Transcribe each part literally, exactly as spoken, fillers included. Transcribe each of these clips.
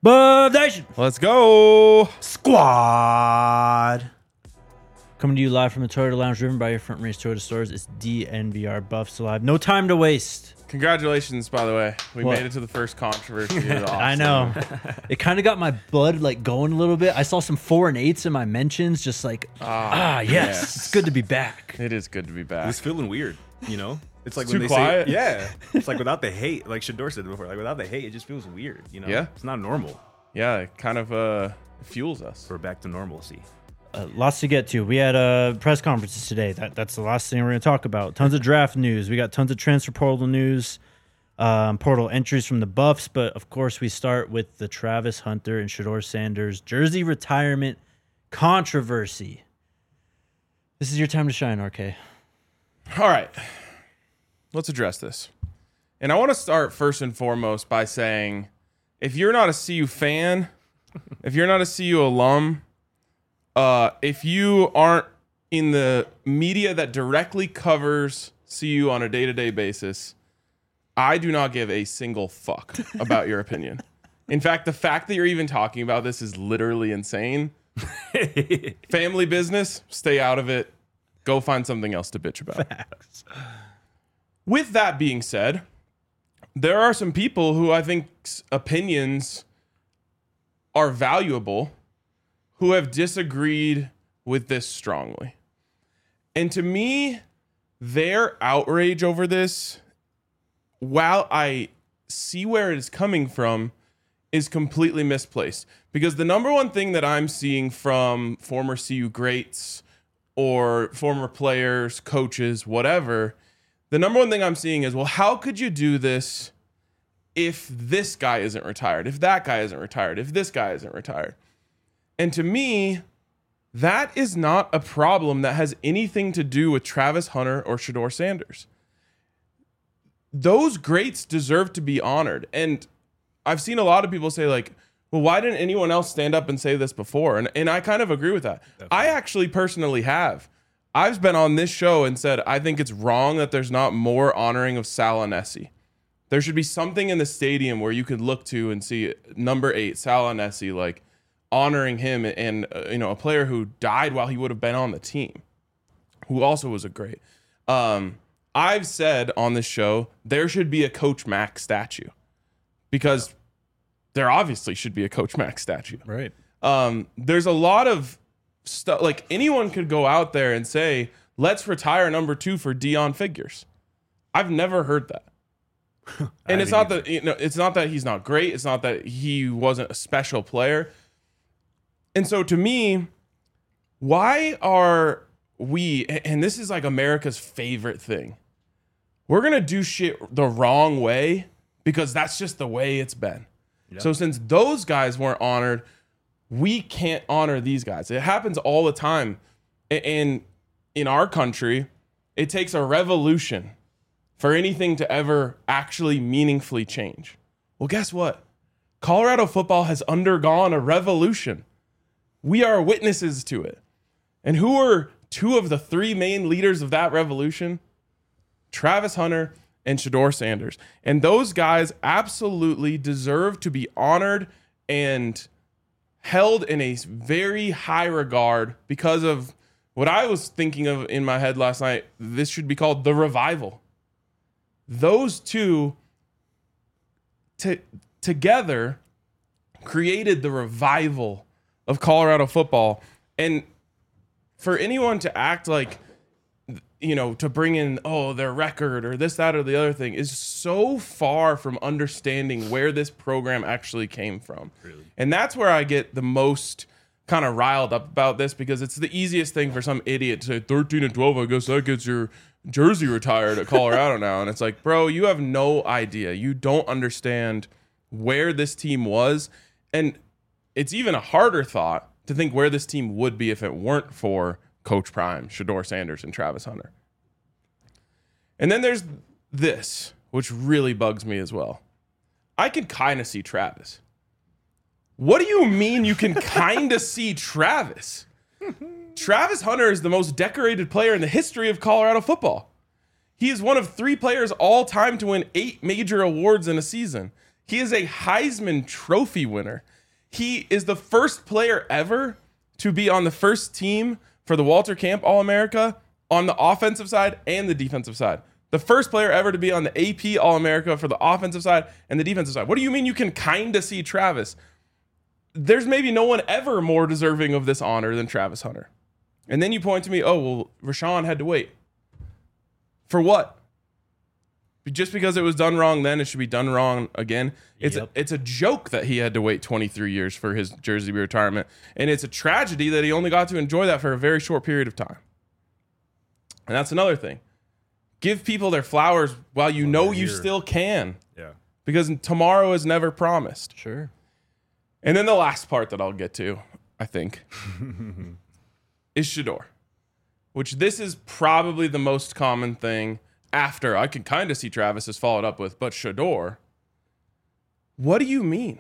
Buff Nation Let's go. Squad. Coming to you live from the Toyota Lounge, driven by your Front Range Toyota stores. It's D N V R Buffs Live. No time to waste. Congratulations, by the way. We What? made it to the first controversy of the I know. It kind of got my blood like going a little bit. I saw some four and eights in my mentions, just like, ah, yes, yes. it's good to be back. It is good to be It back. was feeling weird, you know? It's like It's when too they quiet? say, yeah. It's like without the hate, like Shador said before, like without the hate, it just feels weird, you know? Yeah. It's not normal. Yeah, it kind of uh, fuels us. We're back to normalcy. Uh, lots to get to. We had uh, press conferences today. That That's the last thing we're going to talk about. Tons of draft news. We got tons of transfer portal news, um, portal entries from the Buffs. But, of course, we start with the Travis Hunter and Shador Sanders jersey retirement controversy. This is your time to shine, R K. All right. Let's address this. And I want to start first and foremost by saying, if you're not a C U fan, if you're not a C U alum, uh, if you aren't in the media that directly covers C U on a day-to-day basis, I do not give a single fuck about your opinion. In fact, the fact that you're even talking about this is literally insane. Family business, stay out of it. Go find something else to bitch about. Facts. With that being said, there are some people who I think's opinions are valuable who have disagreed with this strongly. And to me, their outrage over this, while I see where it is coming from, is completely misplaced. Because the number one thing that I'm seeing from former C U greats or former players, coaches, whatever, the number one thing I'm seeing is, well, how could you do this if this guy isn't retired, if that guy isn't retired, if this guy isn't retired? And to me, that is not a problem that has anything to do with Travis Hunter or Shador Sanders. Those greats deserve to be honored. And I've seen a lot of people say, like, well, why didn't anyone else stand up and say this before? And, and I kind of agree with that. Definitely. I actually personally have. I've been on this show and said, I think it's wrong that there's not more honoring of Sal Anesi. There should be something in the stadium where you could look to and see number eight, Sal Anesi, like honoring him, and uh, you know, a player who died while he would have been on the team, who also was a great. Um, I've said on this show there should be a Coach Mack statue, because there obviously should be a Coach Mack statue. Right. Um, there's a lot of stuff, like anyone could go out there and say, let's retire number two for Dion Figures. I've never heard that. And it's not that, you know, it's not that he's not great. It's not that he wasn't a special player. And so to me, why are we, and this is like America's favorite thing, we're going to do shit the wrong way because that's just the way it's been. Yep. So since those guys weren't honored, we can't honor these guys. It happens all the time. And in our country, it takes a revolution for anything to ever actually meaningfully change. Well, guess what? Colorado football has undergone a revolution. We are witnesses to it. And who are two of the three main leaders of that revolution? Travis Hunter and Shador Sanders. And those guys absolutely deserve to be honored and held in a very high regard because of what I was thinking of in my head last night. This should be called the revival. Those two t- together created the revival of Colorado football. And for anyone to act like, you know, to bring in, oh, their record or this, that, or the other thing is so far from understanding where this program actually came from. Really? And that's where I get the most kind of riled up about this, because it's the easiest thing for some idiot to say thirteen and twelve, I guess that gets your jersey retired at Colorado now. And it's like, bro, you have no idea. You don't understand where this team was. And it's even a harder thought to think where this team would be if it weren't for Coach Prime, Shador Sanders, and Travis Hunter. And then there's this, which really bugs me as well. I can kind of see Travis. What do you mean you can kind of see Travis? Travis Hunter is the most decorated player in the history of Colorado football. He is one of three players all time to win eight major awards in a season. He is a Heisman Trophy winner. He is the first player ever to be on the first team for the Walter Camp All-America on the offensive side and the defensive side. The first player ever to be on the A P All-America for the offensive side and the defensive side. What do you mean you can kind of see Travis? There's maybe no one ever more deserving of this honor than Travis Hunter. And then you point to me, oh, well, Rashawn had to wait. For what? Just because it was done wrong then, it should be done wrong again. It's Yep. a, it's a joke that he had to wait twenty-three years for his jersey retirement. And it's a tragedy that he only got to enjoy that for a very short period of time. And that's another thing. Give people their flowers while you know you here. still can. Yeah. Because tomorrow is never promised. Sure. And then the last part that I'll get to, I think, is Shedeur. Which this is probably the most common thing after. I can kind of see Travis has followed up with, but Shedeur, what do you mean?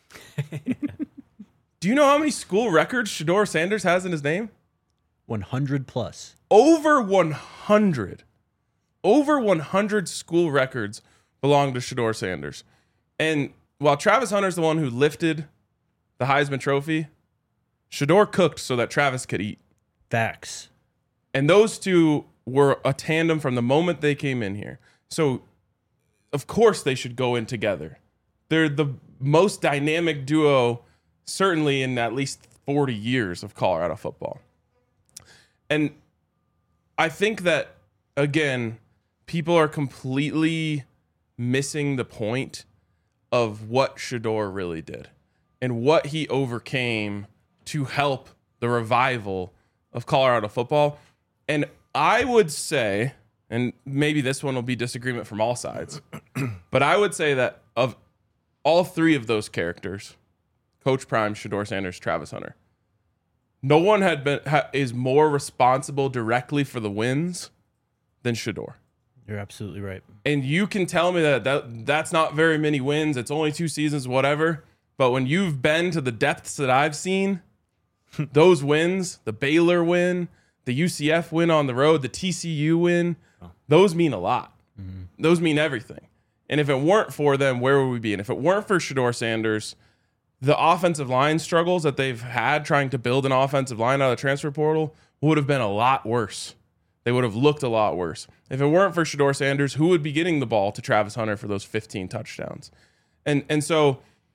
Do you know how many school records Shedeur Sanders has in his name? one hundred plus. Over one hundred. Over one hundred school records belong to Shedeur Sanders. And while Travis Hunter's the one who lifted the Heisman Trophy, Shedeur cooked so that Travis could eat. Facts. And those two were a tandem from the moment they came in here. So, of course, they should go in together. They're the most dynamic duo, certainly in at least forty years of Colorado football. And I think that, again, people are completely missing the point of what Shedeur really did and what he overcame to help the revival of Colorado football. And I would say, and maybe this one will be disagreement from all sides, but I would say that of all three of those characters, Coach Prime, Shedeur Sanders, Travis Hunter, no one had been ha, is more responsible directly for the wins than Shedeur. You're absolutely right. And you can tell me that, that that's not very many wins. It's only two seasons, whatever. But when you've been to the depths that I've seen, those wins, the Baylor win, the U C F win on the road, the T C U win, those mean a lot. Mm-hmm. Those mean everything. And if it weren't for them, where would we be? And if it weren't for Shedeur Sanders, the offensive line struggles that they've had trying to build an offensive line out of the transfer portal would have been a lot worse. They would have looked a lot worse. If it weren't for Shedeur Sanders, who would be getting the ball to Travis Hunter for those fifteen touchdowns? And and so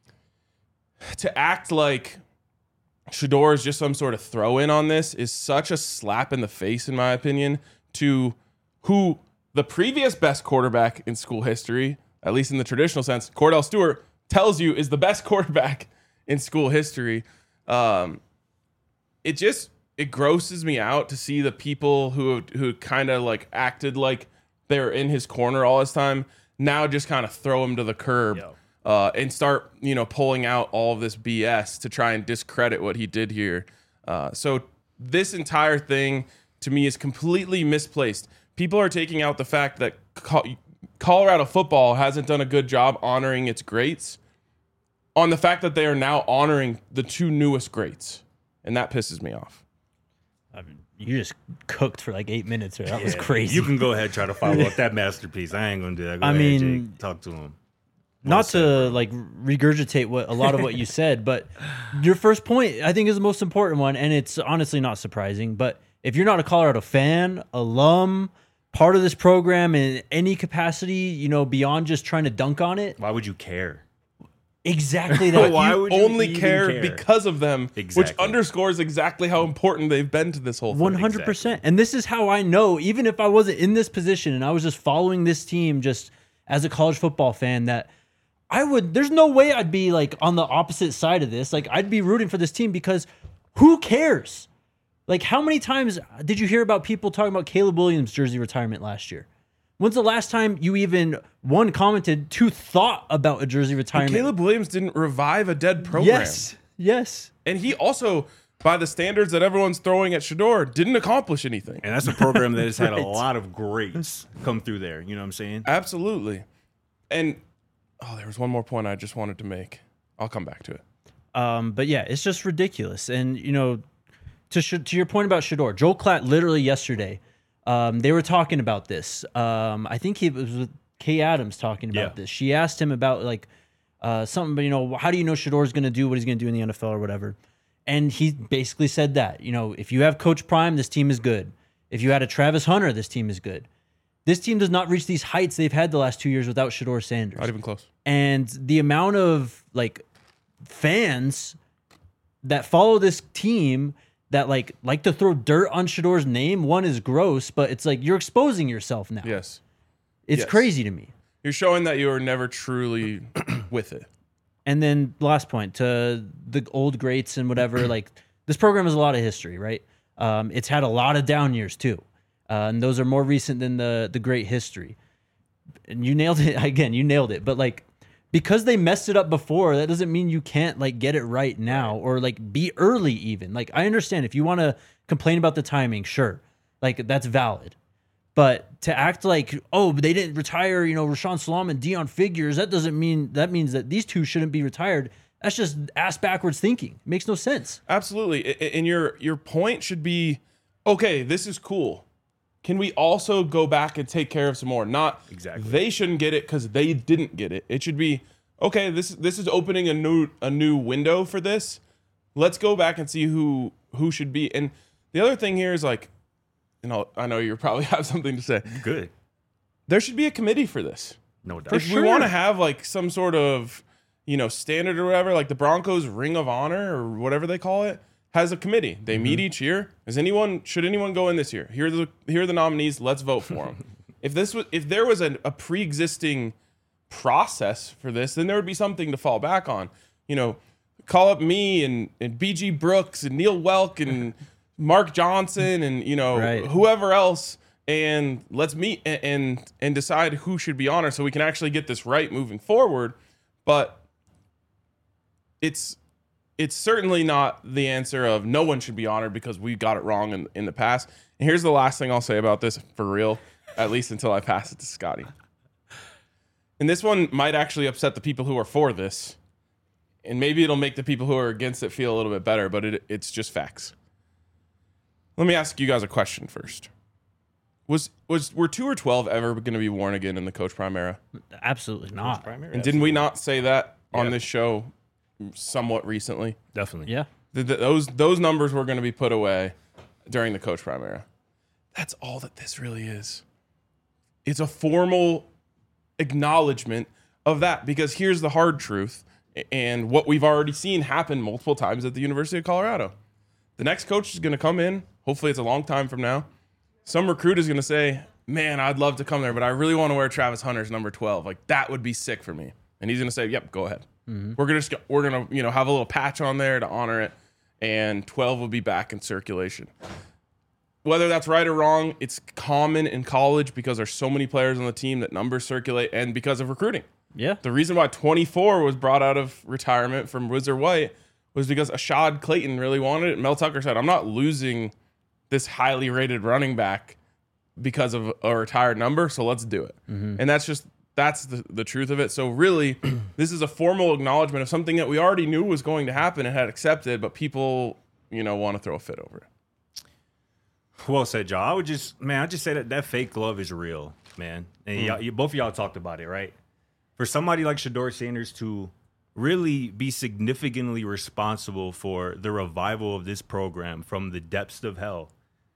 to act like Shedeur is just some sort of throw-in on this is such a slap in the face, in my opinion, to who the previous best quarterback in school history, at least in the traditional sense, Cordell Stewart, tells you is the best quarterback in school history. Um, it just it grosses me out to see the people who who kind of like acted like they're in his corner all this time now just kind of throw him to the curb. Yo. Uh, and start, you know, pulling out all of this B S to try and discredit what he did here. Uh, so this entire thing, to me, is completely misplaced. People are taking out the fact that Co- Colorado football hasn't done a good job honoring its greats on the fact that they are now honoring the two newest greats. And that pisses me off. I mean, you just cooked for like eight minutes there. That was crazy. You can go ahead and try to follow up that masterpiece. I ain't going to do that. Go I ahead, mean, Jake. Talk to him. Not to like regurgitate what a lot of what you said, but your first point I think is the most important one, and it's honestly not surprising. But if you're not a Colorado fan, alum, part of this program in any capacity, you know, beyond just trying to dunk on it, why would you care? Exactly that. Why you would you only even care, care because of them, Exactly. which underscores exactly how important they've been to this whole thing. one hundred percent. And this is how I know, even if I wasn't in this position and I was just following this team just as a college football fan, that I would, there's no way I'd be like on the opposite side of this. Like I'd be rooting for this team because who cares? Like how many times did you hear about people talking about Caleb Williams' jersey retirement last year? When's the last time you even, one, commented, two, thought about a jersey retirement? But Caleb Williams didn't revive a dead program. Yes, yes. And he also, by the standards that everyone's throwing at Shedeur, didn't accomplish anything. And that's a program that has had Right. a lot of greats come through there. You know what I'm saying? Absolutely. And, oh, there was one more point I just wanted to make. I'll come back to it. Um, but yeah, it's just ridiculous. And, you know, to sh- to your point about Shedeur, Joel Klatt literally yesterday, um, they were talking about this. Um, I think he was with Kay Adams talking about Yeah. this. She asked him about, like, uh, something, but you know, how do you know Shador's going to do what he's going to do in the N F L or whatever? And he basically said that, you know, if you have Coach Prime, this team is good. If you had a Travis Hunter, this team is good. This team does not reach these heights they've had the last two years without Shador Sanders. Not even close. And the amount of like fans that follow this team that like like to throw dirt on Shador's name, one is gross, but it's like you're exposing yourself now. Yes. It's Yes. crazy to me. You're showing that you were never truly with it. And then last point to the old greats and whatever, like this program has a lot of history, right? Um, it's had a lot of down years too. Uh, and those are more recent than the the great history. And you nailed it again, you nailed it. But like because they messed it up before, that doesn't mean you can't like get it right now or like be early even. Like I understand if you want to complain about the timing, sure. Like that's valid. But to act like, oh, they didn't retire, you know, Rashawn Salam and Dion Figures, that doesn't mean that means that these two shouldn't be retired. That's just ass backwards thinking. It makes no sense. Absolutely. I- And your your point should be, okay, this is cool. Can we also go back and take care of some more? Not Exactly. they shouldn't get it because they didn't get it. It should be, okay, this this is opening a new a new window for this. Let's go back and see who who should be. And the other thing here is like, you know, I know you probably have something to say. Good. There should be a committee for this. No doubt. If we want to have like some sort of, you know, standard or whatever, like the Broncos Ring of Honor or whatever they call it, has a committee. They meet each year. Is anyone should anyone go in this year? Here are the here are the nominees. Let's vote for them. if this was if there was a, a pre-existing process for this, then there would be something to fall back on. You know, call up me and and B G Brooks and Neil Welk and Mark Johnson and you know Right. whoever else. And let's meet and, and and decide who should be honored so we can actually get this right moving forward. But it's it's certainly not the answer of no one should be honored because we got it wrong in, in the past. And here's the last thing I'll say about this for real, at least until I pass it to Scotty. And this one might actually upset the people who are for this. And maybe it'll make the people who are against it feel a little bit better, but it, it's just facts. Let me ask you guys a question first. Was was were two or twelve ever going to be worn again in the Coach Prime era? Absolutely not. Primary. And didn't we not say that on Yeah. this show somewhat recently? Definitely. Yeah. The, the, those those numbers were going to be put away during the Coach Prime era. That's all that this really is. It's a formal acknowledgement of that because here's the hard truth and what we've already seen happen multiple times at the University of Colorado. The next coach is going to come in. Hopefully it's a long time from now. Some recruit is going to say, man, I'd love to come there, but I really want to wear Travis Hunter's number twelve. Like, that would be sick for me. And he's going to say, yep, go ahead. Mm-hmm. We're going to we're going to you know have a little patch on there to honor it, and twelve will be back in circulation. Whether that's right or wrong, it's common in college because there's so many players on the team that numbers circulate and because of recruiting. Yeah. The reason why twenty-four was brought out of retirement from Wizard White was because Ashad Clayton really wanted it. Mel Tucker said, I'm not losing this highly rated running back because of a retired number, so let's do it. Mm-hmm. And that's just, that's the, the truth of it. So really, this is a formal acknowledgement of something that we already knew was going to happen and had accepted, but people, you know, want to throw a fit over it. Well said, y'all. I would just, man, I just say that that fake love is real, man. And y'all, you, both of y'all talked about it, right? For somebody like Shador Sanders to really be significantly responsible for the revival of this program from the depths of hell,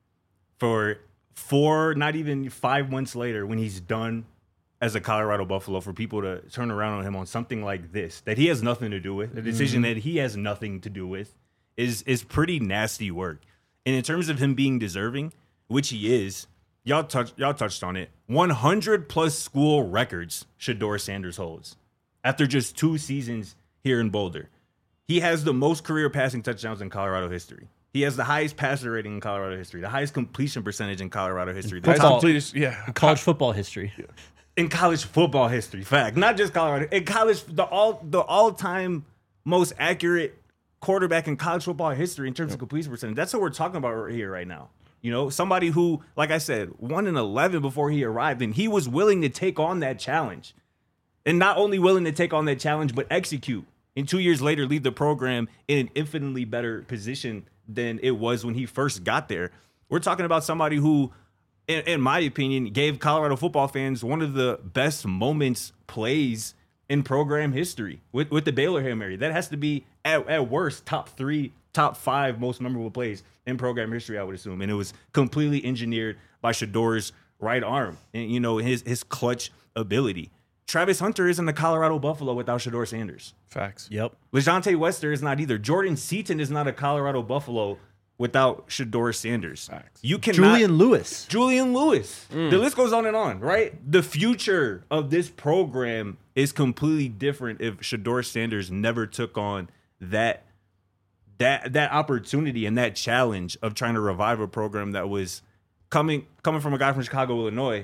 for four, not even five months later, when he's done as a Colorado Buffalo, for people to turn around on him on something like this that he has nothing to do with, a decision mm-hmm. that he has nothing to do with, is is pretty nasty work. And in terms of him being deserving, which he is, y'all touched y'all touched on it. one hundred plus school records Shador Sanders holds after just two seasons here in Boulder. He has the most career passing touchdowns in Colorado history. He has the highest passer rating in Colorado history, the highest completion percentage in Colorado history. The Football. top Completed- yeah. College football history. in college football history. Fact, not just Colorado. In college, the all the all time most accurate quarterback in college football history in terms of completion percentage. That's what we're talking about right here right now. You know, somebody who, like I said, one in eleven before he arrived, and he was willing to take on that challenge, and not only willing to take on that challenge, but execute. And two years later, leave the program in an infinitely better position than it was when he first got there. We're talking about somebody who, in, in my opinion, gave Colorado football fans one of the best moments, plays, in program history with, with the Baylor Hail Mary. That has to be, at, at worst, top three, top five most memorable plays in program history, I would assume. And it was completely engineered by Shador's right arm and, you know, his his clutch ability. Travis Hunter isn't a Colorado Buffalo without Shador Sanders. Facts. Yep. LeJounte Wester is not either. Jordan Seaton is not a Colorado Buffalo without Shador Sanders. Facts. You cannot. Julian Lewis. Julian Lewis. Mm. The list goes on and on, right? The future of this program is completely different if Shador Sanders never took on that that that opportunity and that challenge of trying to revive a program that was coming coming from a guy from Chicago, Illinois.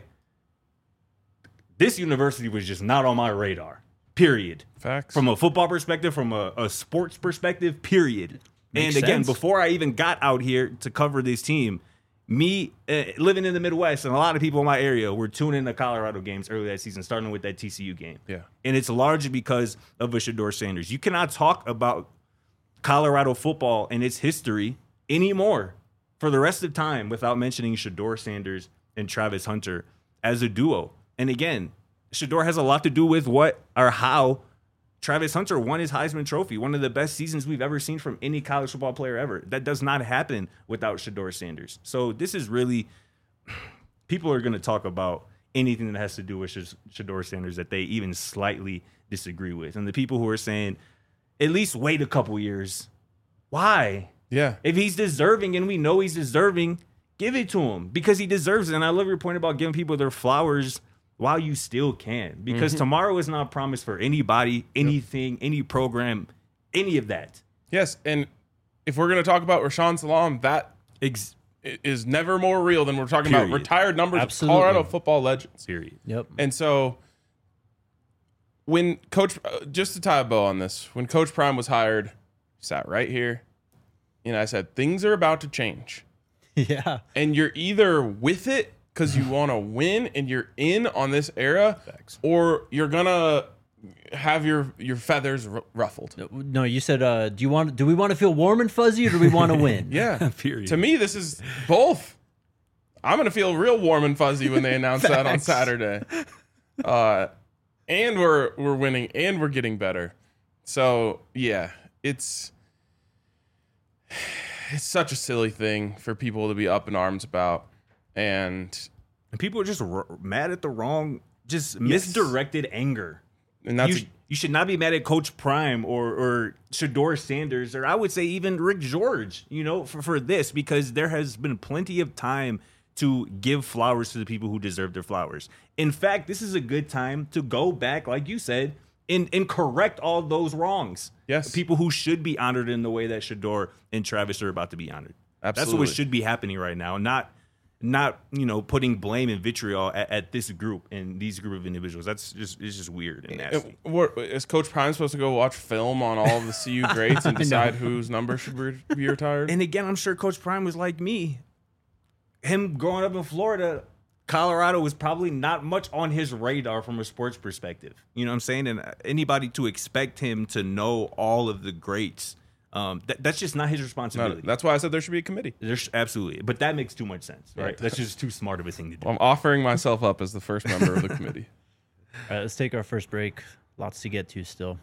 This university was just not on my radar. Period. Facts. From a football perspective, from a, a sports perspective, period. Makes and again, sense. before I even got out here to cover this team, me uh, living in the Midwest and a lot of people in my area were tuning into Colorado games early that season, starting with that T C U game. Yeah. And it's largely because of a Shador Sanders. You cannot talk about Colorado football and its history anymore for the rest of time without mentioning Shador Sanders and Travis Hunter as a duo. And again, Shador has a lot to do with what or how Travis Hunter won his Heisman Trophy, one of the best seasons we've ever seen from any college football player ever. That does not happen without Shador Sanders. So this is really, people are going to talk about anything that has to do with Shador Sanders that they even slightly disagree with. And the people who are saying, at least wait a couple years. Why? Yeah. If he's deserving and we know he's deserving, give it to him because he deserves it. And I love your point about giving people their flowers while you still can, because mm-hmm. tomorrow is not promised for anybody, anything, yep. any program, any of that. Yes, and if we're going to talk about Rashaan Salam, that Ex- is never more real than we're talking Period. about retired numbers Absolutely. of Colorado football legends. Period. Yep. And so when Coach, just to tie a bow on this, when Coach Prime was hired, sat right here, and I said, things are about to change. Yeah. And you're either with it because you want to win and you're in on this era, Facts. or you're gonna have your your feathers r- ruffled. No, you said, uh, do you want? Do we want to feel warm and fuzzy, or do we want to win? Yeah, period. To me, this is both. I'm gonna feel real warm and fuzzy when they announce that on Saturday. Uh, and we're we're winning and we're getting better. So yeah, it's it's such a silly thing for people to be up in arms about. And, and people are just r- mad at the wrong, just yes. misdirected anger. And that's you, a, you should not be mad at Coach Prime or or Shador Sanders, or I would say even Rick George, you know, for, for this, because there has been plenty of time to give flowers to the people who deserve their flowers. In fact, this is a good time to go back, like you said, and, and correct all those wrongs. Yes. People who should be honored in the way that Shador and Travis are about to be honored. Absolutely. That's what should be happening right now, not Not, you know, putting blame and vitriol at, at this group and these group of individuals. That's just, it's just weird and nasty. It, what, is Coach Prime supposed to go watch film on all of the C U greats and decide whose number should re- be retired? And again, I'm sure Coach Prime was like me. Him growing up in Florida, Colorado was probably not much on his radar from a sports perspective. You know what I'm saying? And anybody to expect him to know all of the greats, Um, that, that's just not his responsibility. No, that's why I said there should be a committee. There's absolutely, but that makes too much sense, right? Right. That's just too smart of a thing to do. Well, I'm offering myself up as the first member of the committee. All right, let's take our first break. Lots to get to still.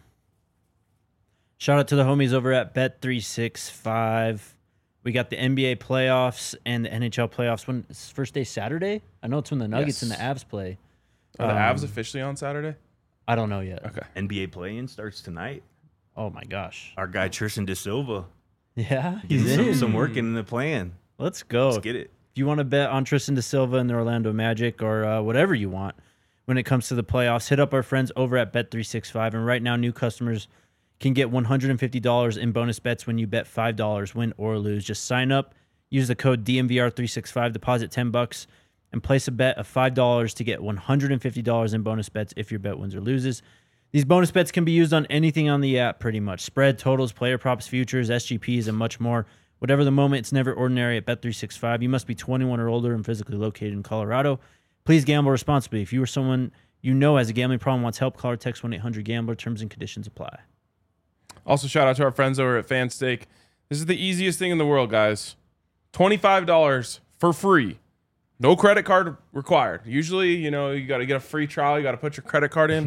Shout out to the homies over at Bet three sixty-five. We got the N B A playoffs and the N H L playoffs. When it's first day Saturday? I know it's when the Nuggets Yes. and the Avs play. Are the Um, Avs officially on Saturday? I don't know yet. Okay. N B A play-in starts tonight. Oh my gosh. Our guy Tristan Da Silva Yeah, getting he's some, in. some work in the plan. Let's go. Let's get it. If you want to bet on Tristan Da Silva and the Orlando Magic or uh, whatever you want when it comes to the playoffs, hit up our friends over at Bet three sixty-five. And right now, new customers can get one hundred fifty dollars in bonus bets when you bet five dollars, win or lose. Just sign up, use the code D M V R three sixty-five, deposit ten bucks, and place a bet of five dollars to get one hundred fifty dollars in bonus bets if your bet wins or loses. These bonus bets can be used on anything on the app, pretty much. Spread, totals, player props, futures, S G Ps, and much more. Whatever the moment, it's never ordinary at Bet three sixty-five. You must be twenty-one or older and physically located in Colorado. Please gamble responsibly. If you or someone you know has a gambling problem, wants help, call or text one eight hundred gambler. Terms and conditions apply. Also, shout out to our friends over at FanStake. This is the easiest thing in the world, guys. twenty-five dollars for free. No credit card required. Usually, you know, you got to get a free trial. You got to put your credit card in.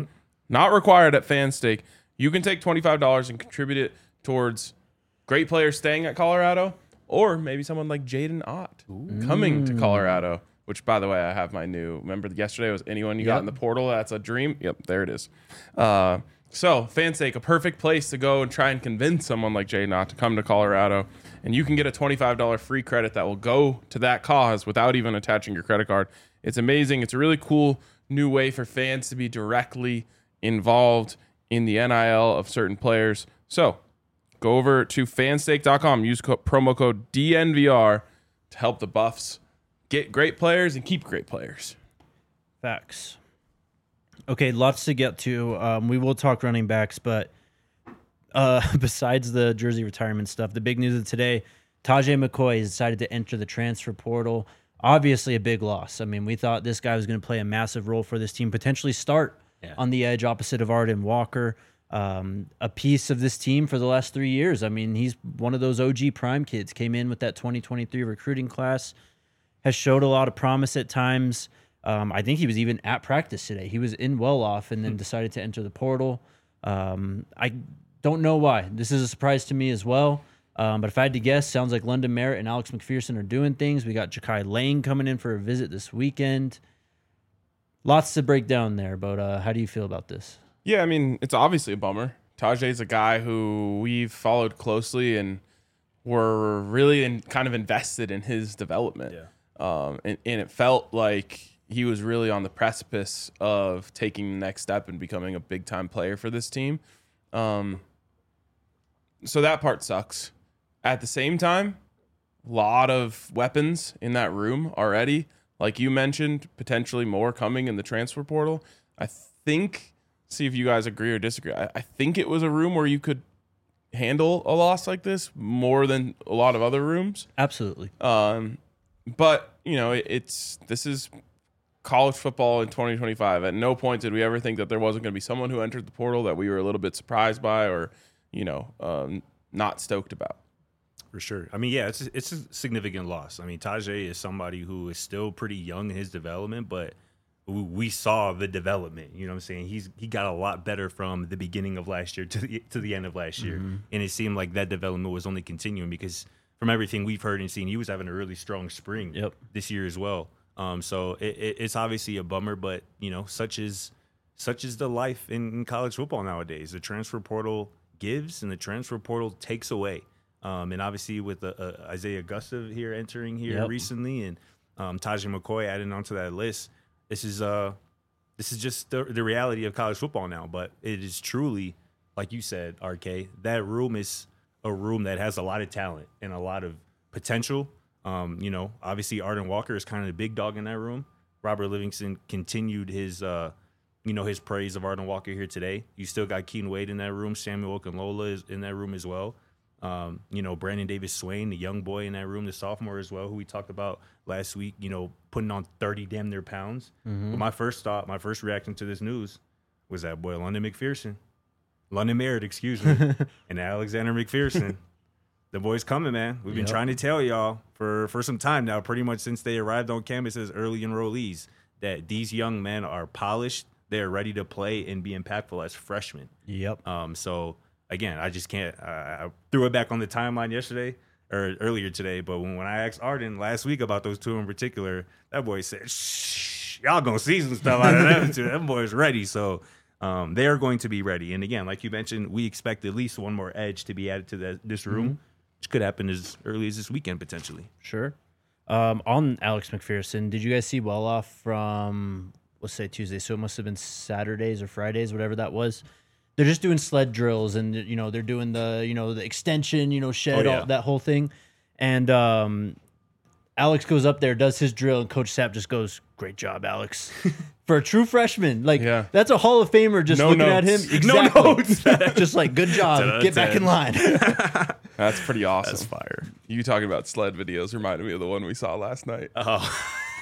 not required at FanStake. You can take twenty-five dollars and contribute it towards great players staying at Colorado, or maybe someone like Jaden Ott coming to Colorado, which, by the way, I have my new, remember yesterday was anyone you Yep. got in the portal, that's a dream? Yep, there it is. Uh, so, FanStake, a perfect place to go and try and convince someone like Jaden Ott to come to Colorado, and you can get a twenty-five dollars free credit that will go to that cause without even attaching your credit card. It's amazing. It's a really cool new way for fans to be directly involved in the N I L of certain players. So, go over to fanstake dot com, use co- promo code D N V R to help the Buffs get great players and keep great players. Facts. Okay, lots to get to. Um, we will talk running backs, but uh, besides the jersey retirement stuff, the big news of today, Tajay McCoy has decided to enter the transfer portal. Obviously a big loss. I mean, we thought this guy was going to play a massive role for this team, potentially start Yeah. on the edge opposite of Arden Walker. Um, a piece of this team for the last three years. I mean, he's one of those O G prime kids, came in with that twenty twenty-three recruiting class, has showed a lot of promise at times. Um, I think he was even at practice today. He was in well-off and then decided to enter the portal. Um, I don't know why. This is a surprise to me as well. Um, but if I had to guess, sounds like London Merritt and Alex McPherson are doing things. We got Ja'Kai Lane coming in for a visit this weekend. Lots to break down there, but uh, how do you feel about this? Yeah, I mean, it's obviously a bummer. Tajay's a guy who we've followed closely and were really in, kind of invested in his development. Yeah. Um, and, and it felt like he was really on the precipice of taking the next step and becoming a big-time player for this team. Um, so that part sucks. At the same time, a lot of weapons in that room already. Like you mentioned, potentially more coming in the transfer portal. I think, see if you guys agree or disagree, I, I think it was a room where you could handle a loss like this more than a lot of other rooms. Absolutely. Um, but, you know, it, it's this is college football in twenty twenty-five. At no point did we ever think that there wasn't going to be someone who entered the portal that we were a little bit surprised by or, you know, um, not stoked about. For sure. I mean, yeah, it's it's a significant loss. I mean, Tajay is somebody who is still pretty young in his development, but we, we saw the development. You know what I'm saying? He's he got a lot better from the beginning of last year to the to the end of last year, Mm-hmm. and it seemed like that development was only continuing because from everything we've heard and seen, he was having a really strong spring Yep. this year as well. Um, so it, it, it's obviously a bummer, but you know, such is such is the life in, in college football nowadays. The transfer portal gives and the transfer portal takes away. Um, and obviously with uh, uh, Isaiah Augusta here entering here Yep. recently, and um, Tajay McCoy adding onto that list, this is uh, this is just the, the reality of college football now. But it is truly, like you said, R K, that room is a room that has a lot of talent and a lot of potential. Um, you know, obviously Arden Walker is kind of the big dog in that room. Robert Livingston continued his, uh, you know, his praise of Arden Walker here today. You still got Keaton Wade in that room. Samuel Okunlola is in that room as well. Um, you know, Brandon Davis Swain, the young boy in that room, the sophomore as well, who we talked about last week, you know, putting on thirty damn near pounds. Mm-hmm. But my first thought, my first reaction to this news was that boy, London McPherson. London Merritt, excuse me, and Alexander McPherson. The boy's coming, man. We've been Yep. trying to tell y'all for, for some time now, pretty much since they arrived on campus as early enrollees, that these young men are polished. They're ready to play and be impactful as freshmen. Yep. Um, so, again, I just can't. Uh, I threw it back on the timeline yesterday or earlier today, but when, when I asked Arden last week about those two in particular, that boy said, shh, y'all going to see some stuff out of them too. Them boys ready. So, um, they are going to be ready. And, again, like you mentioned, we expect at least one more edge to be added to the, this room. Mm-hmm. Which could happen as early as this weekend, potentially. Sure. Um, on Alex McPherson, did you guys see well off from, let's say Tuesday? So it must have been Saturdays or Fridays, whatever that was. They're just doing sled drills, and you know they're doing the you know the extension, you know shed, Oh, yeah. all, that whole thing. And um, Alex goes up there, does his drill, and Coach Sapp just goes, "Great job, Alex." For a true freshman, like Yeah. that's a Hall of Famer just No looking at him. notes. No Exactly. notes. Just like, good job. Ta-da, Get back ten. in line. That's pretty awesome. That's fire. You talking about sled videos reminded me of the one we saw last night. Oh,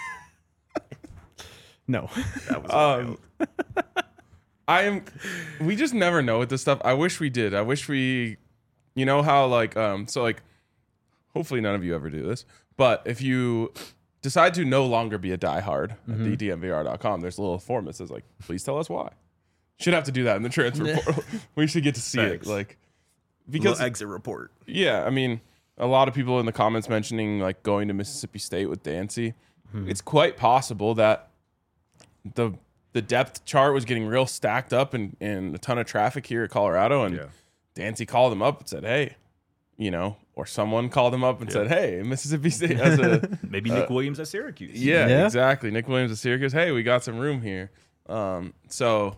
No. that was Um, wild. I am. We just never know with this stuff. I wish we did. I wish we, you know how like um. So like, hopefully none of you ever do this. But if you decide to no longer be a diehard at the D M V R dot com, there's a little form that says like, please tell us why. Should have to do that in the transfer portal. We should get to see Thanks. it. Like, because Little exit report. yeah, I mean, a lot of people in the comments mentioning like going to Mississippi State with Dancy. Hmm. It's quite possible that the the depth chart was getting real stacked up and, and a ton of traffic here at Colorado, and Yeah. Dancy called him up and said, "Hey," you know, or someone called him up and Yeah. said, "Hey, Mississippi State has a Maybe Nick Williams at Syracuse. yeah, Yeah. exactly. Nick Williams at Syracuse. Hey, we got some room here." Um, so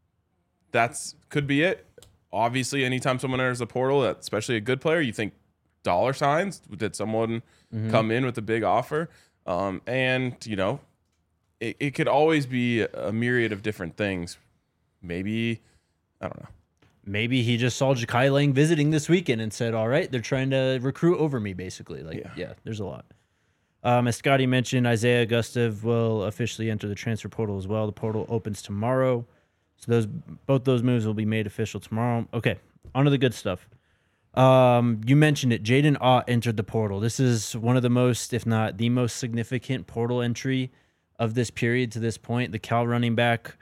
that's could be it. Obviously, anytime someone enters the portal, especially a good player, you think dollar signs. Did someone mm-hmm. come in with a big offer? Um, and you know, it, it could always be a myriad of different things. Maybe I don't know. Maybe he just saw Ja'Kai Lang visiting this weekend and said, all right, they're trying to recruit over me, basically. Like, yeah, Yeah. there's a lot. Um, as Scotty mentioned, Isaiah Gustav will officially enter the transfer portal as well. The portal opens tomorrow. So those both those moves will be made official tomorrow. Okay, on to the good stuff. Um, you mentioned it. Jaden Ott entered the portal. This is one of the most, if not the most significant portal entry of this period to this point. The Cal running back,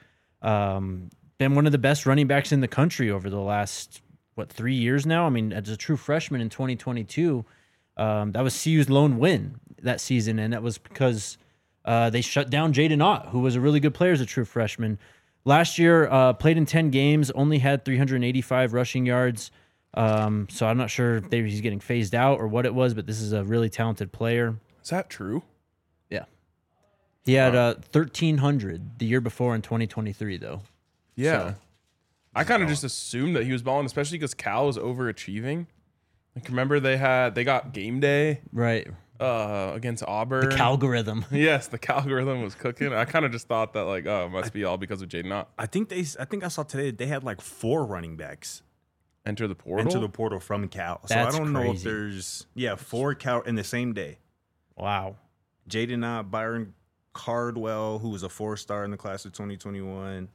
um, been one of the best running backs in the country over the last, what, three years now? I mean, as a true freshman in twenty twenty-two, um, that was C U's lone win that season, and that was because uh, they shut down Jaden Ott, who was a really good player as a true freshman. Last year, uh, played in ten games, only had three hundred eighty-five rushing yards. Um, so I'm not sure if he's getting phased out or what it was, but this is a really talented player. Is that true? Yeah. He had uh, thirteen hundred the year before in twenty twenty-three, though. Yeah. So. I kind of just assumed that he was balling, especially because Cal was overachieving. Like, remember they had they got game day Right. uh, against Auburn. The algorithm. Yes, the algorithm was cooking. I kind of just thought that like, oh, it must be all because of Jaden Ott. I think they. I think I saw today that they had like four running backs Enter the portal. into the portal from Cal. So That's I don't know if crazy. there's yeah four Cal in the same day. Wow. Jaden Ott, Byron Cardwell, who was a four-star in the class of twenty twenty-one.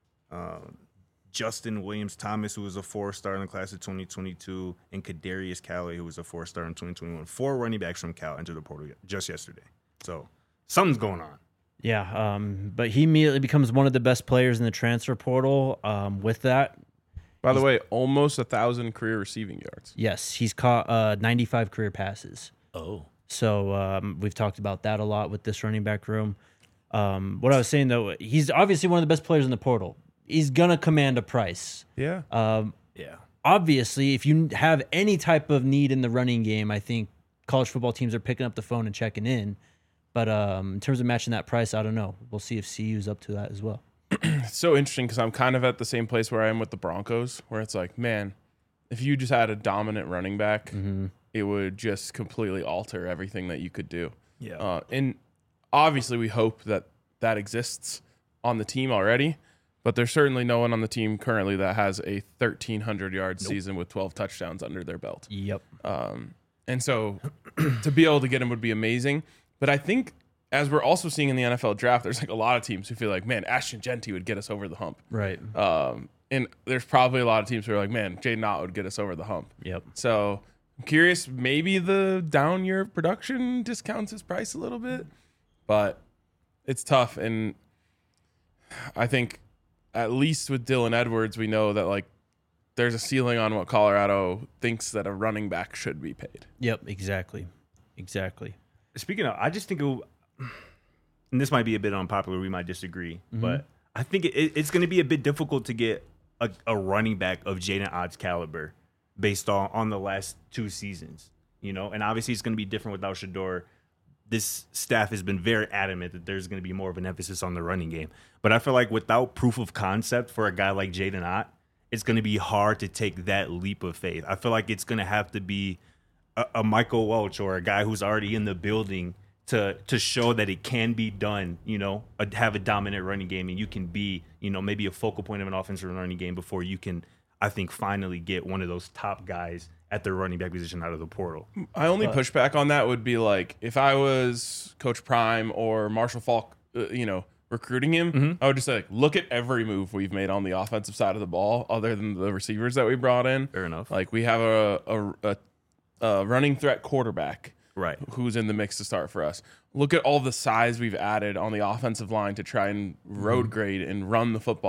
Um, Justin Williams Thomas, who was a four-star in the class of twenty twenty-two, and Kadarius Calley, who was a four-star in twenty twenty-one. Four running backs from Cal entered the portal just yesterday. So something's going on. Yeah, um, but he immediately becomes one of the best players in the transfer portal. Um, with that, By the way, almost a thousand career receiving yards. yes, he's caught uh, ninety-five career passes. Oh. So um, we've talked about that a lot with this running back room. Um, what I was saying, though, he's obviously one of the best players in the portal. He's going to command a price. Yeah. Um, Yeah. obviously, if you have any type of need in the running game, I think college football teams are picking up the phone and checking in. But um, in terms of matching that price, I don't know. We'll see if C U's up to that as well. It's so interesting because I'm kind of at the same place where I am with the Broncos, where it's like, man, if you just had a dominant running back, Mm-hmm. it would just completely alter everything that you could do. Yeah. Uh, and obviously, we hope that that exists on the team already, but there's certainly no one on the team currently that has a thirteen hundred yard Nope. season with twelve touchdowns under their belt. Yep. Um, and so to be able to get him would be amazing. But I think as we're also seeing in the N F L draft, there's like a lot of teams who feel like, man, Ashton Genty would get us over the hump. Right. Um, and there's probably a lot of teams who are like, man, Jaden Ott would get us over the hump. Yep. So I'm curious, maybe the down year of production discounts his price a little bit, but it's tough. And I think at least with Dylan Edwards, we know that like there's a ceiling on what Colorado thinks that a running back should be paid. Yep. Exactly. Exactly. Speaking of, I just think, it, and this might be a bit unpopular, we might disagree, Mm-hmm. but I think it, it's going to be a bit difficult to get a, a running back of Jaden Ott's caliber based on, on the last two seasons, you know, and obviously it's going to be different without Shedeur. This staff has been very adamant that there's going to be more of an emphasis on the running game, but I feel like without proof of concept for a guy like Jaden Ott, it's going to be hard to take that leap of faith. I feel like it's going to have to be a, a Michael Welch or a guy who's already in the building to to show that it can be done, you know, a, have a dominant running game, and you can be, you know, maybe a focal point of an offensive running game before you can, I think, finally get one of those top guys at the running back position out of the portal. My only pushback on that would be like if I was Coach Prime or Marshall Falk, uh, you know, recruiting him, Mm-hmm. I would just say, like, look at every move we've made on the offensive side of the ball, other than the receivers that we brought in. Fair enough. Like we have a a, a, a running threat quarterback. Right. Who's in the mix to start for us. Look at all the size we've added on the offensive line to try and road grade and run the football.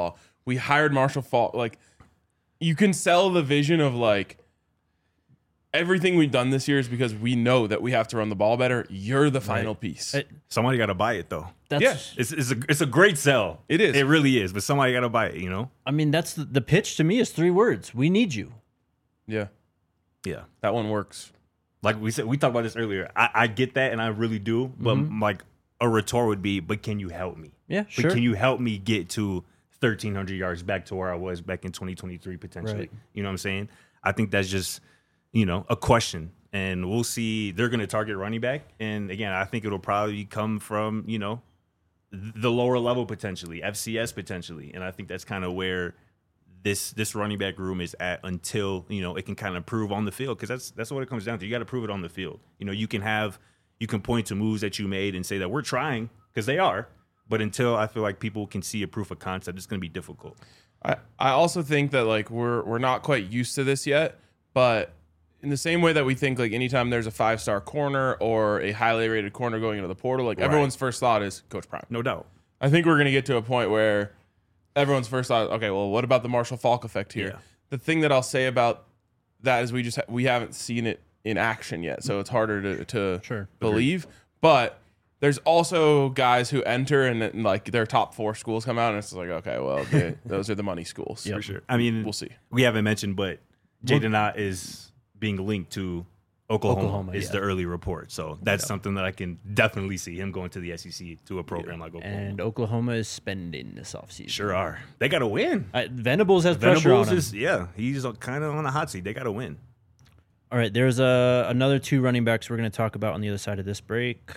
We hired Marshall Faulk. Like, you can sell the vision of like everything we've done this year is because we know that we have to run the ball better. You're the final Right. piece. It- Somebody got to buy it though. That's, Yeah. It's it's a it's a great sell. It is. It really is. But somebody got to buy it. You know. I mean, that's the, the pitch to me is three words. We need you. yeah, Yeah. that one works. Like we said, we talked about this earlier. I, I get that, and I really do. But like a retort would be, but can you help me? Yeah, But sure. can you help me get to thirteen hundred yards back to where I was back in twenty twenty-three potentially? Right. You know what I'm saying? I think that's just, you know, a question. And we'll see. They're going to target running back. And again, I think it'll probably come from, you know, the lower level potentially, F C S potentially. And I think that's kind of where this this running back room is at until, you know, it can kind of prove on the field, because that's that's what it comes down to. You got to prove it on the field. You know, you can have you can point to moves that you made and say that we're trying, because they are. But until I feel like people can see a proof of concept, it's going to be difficult. I, I also think that like we're we're not quite used to this yet, but in the same way that we think like anytime there's a five star corner or a highly rated corner going into the portal, like Right. everyone's first thought is Coach Prime. No doubt. I think we're gonna get to a point where everyone's first thought, okay, well, what about the Marshall Faulk effect here? Yeah. The thing that I'll say about that is we just ha- we haven't seen it in action yet, so it's harder to to Sure. believe. But there's also guys who enter and, and like their top four schools come out, and it's like, okay, well, they, those are the money schools. For sure. I mean, We'll see. We haven't mentioned, but Jaden Ott is being linked to Oklahoma, Oklahoma, is yeah. the early report. So that's something that I can definitely see him going to the S E C to a program like Oklahoma. And Oklahoma is spending this offseason. Sure are. They got to win. Uh, Venables has pressure Venables on him. is, yeah, he's kind of on the hot seat. They got to win. All right, there's a, another two running backs we're going to talk about on the other side of this break.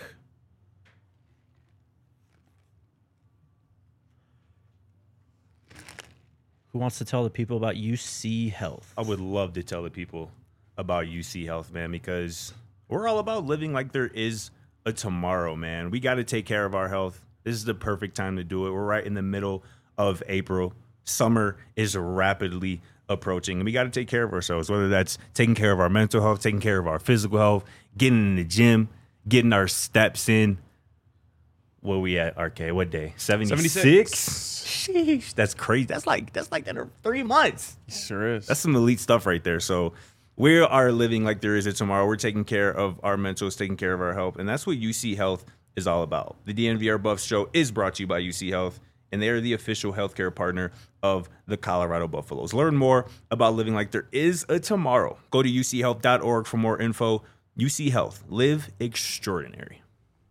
Who wants to tell the people about U C Health? I would love to tell the people about U C Health, man, because we're all about living like there is a tomorrow, man. We got to take care of our health. This is the perfect time to do it. We're right in the middle of April. Summer is rapidly approaching, and we got to take care of ourselves, whether that's taking care of our mental health, taking care of our physical health, getting in the gym, getting our steps in. Where we at, R K? What day? seventy-six? seventy-six. Sheesh, that's crazy. That's like that's like that in three months. Sure is. That's some elite stuff right there. So we are living like there is a tomorrow. We're taking care of our mentals, taking care of our health, and that's what U C Health is all about. The D N V R Buffs show is brought to you by U C Health, and they are the official healthcare partner of the Colorado Buffaloes. Learn more about living like there is a tomorrow. Go to U C health dot org for more info. U C Health, live extraordinary.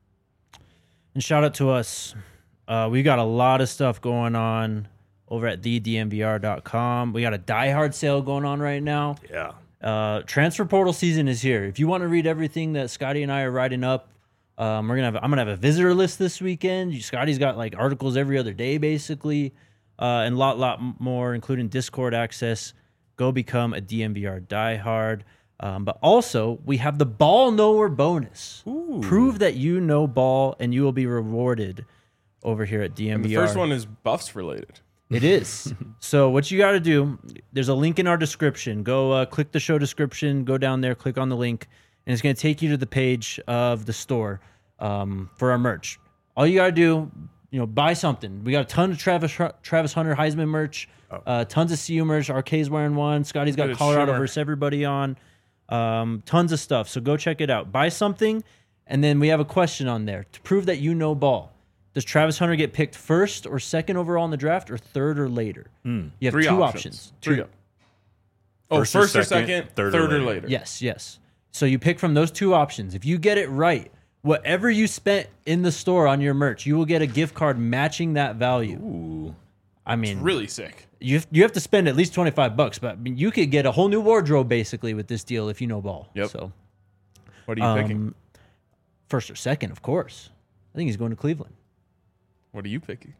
And shout out to us. Uh, we got a lot of stuff going on over at the D N V R dot com. We got a Die Hard sale going on right now. Yeah. Uh, transfer portal season is here. If you want to read everything that Scotty and I are writing up, um, we're gonna have. I'm gonna have a visitor list this weekend. Scotty's got like articles every other day, basically, uh, and a lot, lot more, including Discord access. Go become a D N V R diehard. Um, but also, we have the ball knower bonus. Ooh. Prove that you know ball, and you will be rewarded over here at D N V R. And the first one is Buffs related. It is. So what you got to do, there's a link in our description. Go uh, click the show description, go down there, click on the link, and it's going to take you to the page of the store um, for our merch. All you got to do, you know, buy something. We got a ton of Travis Travis Hunter Heisman merch, uh, tons of C U merch. R K's wearing one. Scotty's got Good Colorado shimmer. versus everybody on. Um, tons of stuff. So go check it out. Buy something, and then we have a question on there to prove that you know ball. Does Travis Hunter get picked first or second overall in the draft, or third or later? You have Three two options. options. Three. Two. op- Oh, First first, or or second, second, third third, or or later. later. Yes, yes. So you pick from those two options. If you get it right, whatever you spent in the store on your merch, you will get a gift card matching that value. Ooh. I mean, Really sick. you have, you have to spend at least twenty-five bucks, but I mean, you could get a whole new wardrobe basically with this deal if you know ball. Yep. So What are you picking? um, first or second, of course. I think he's going to Cleveland. What are you picking?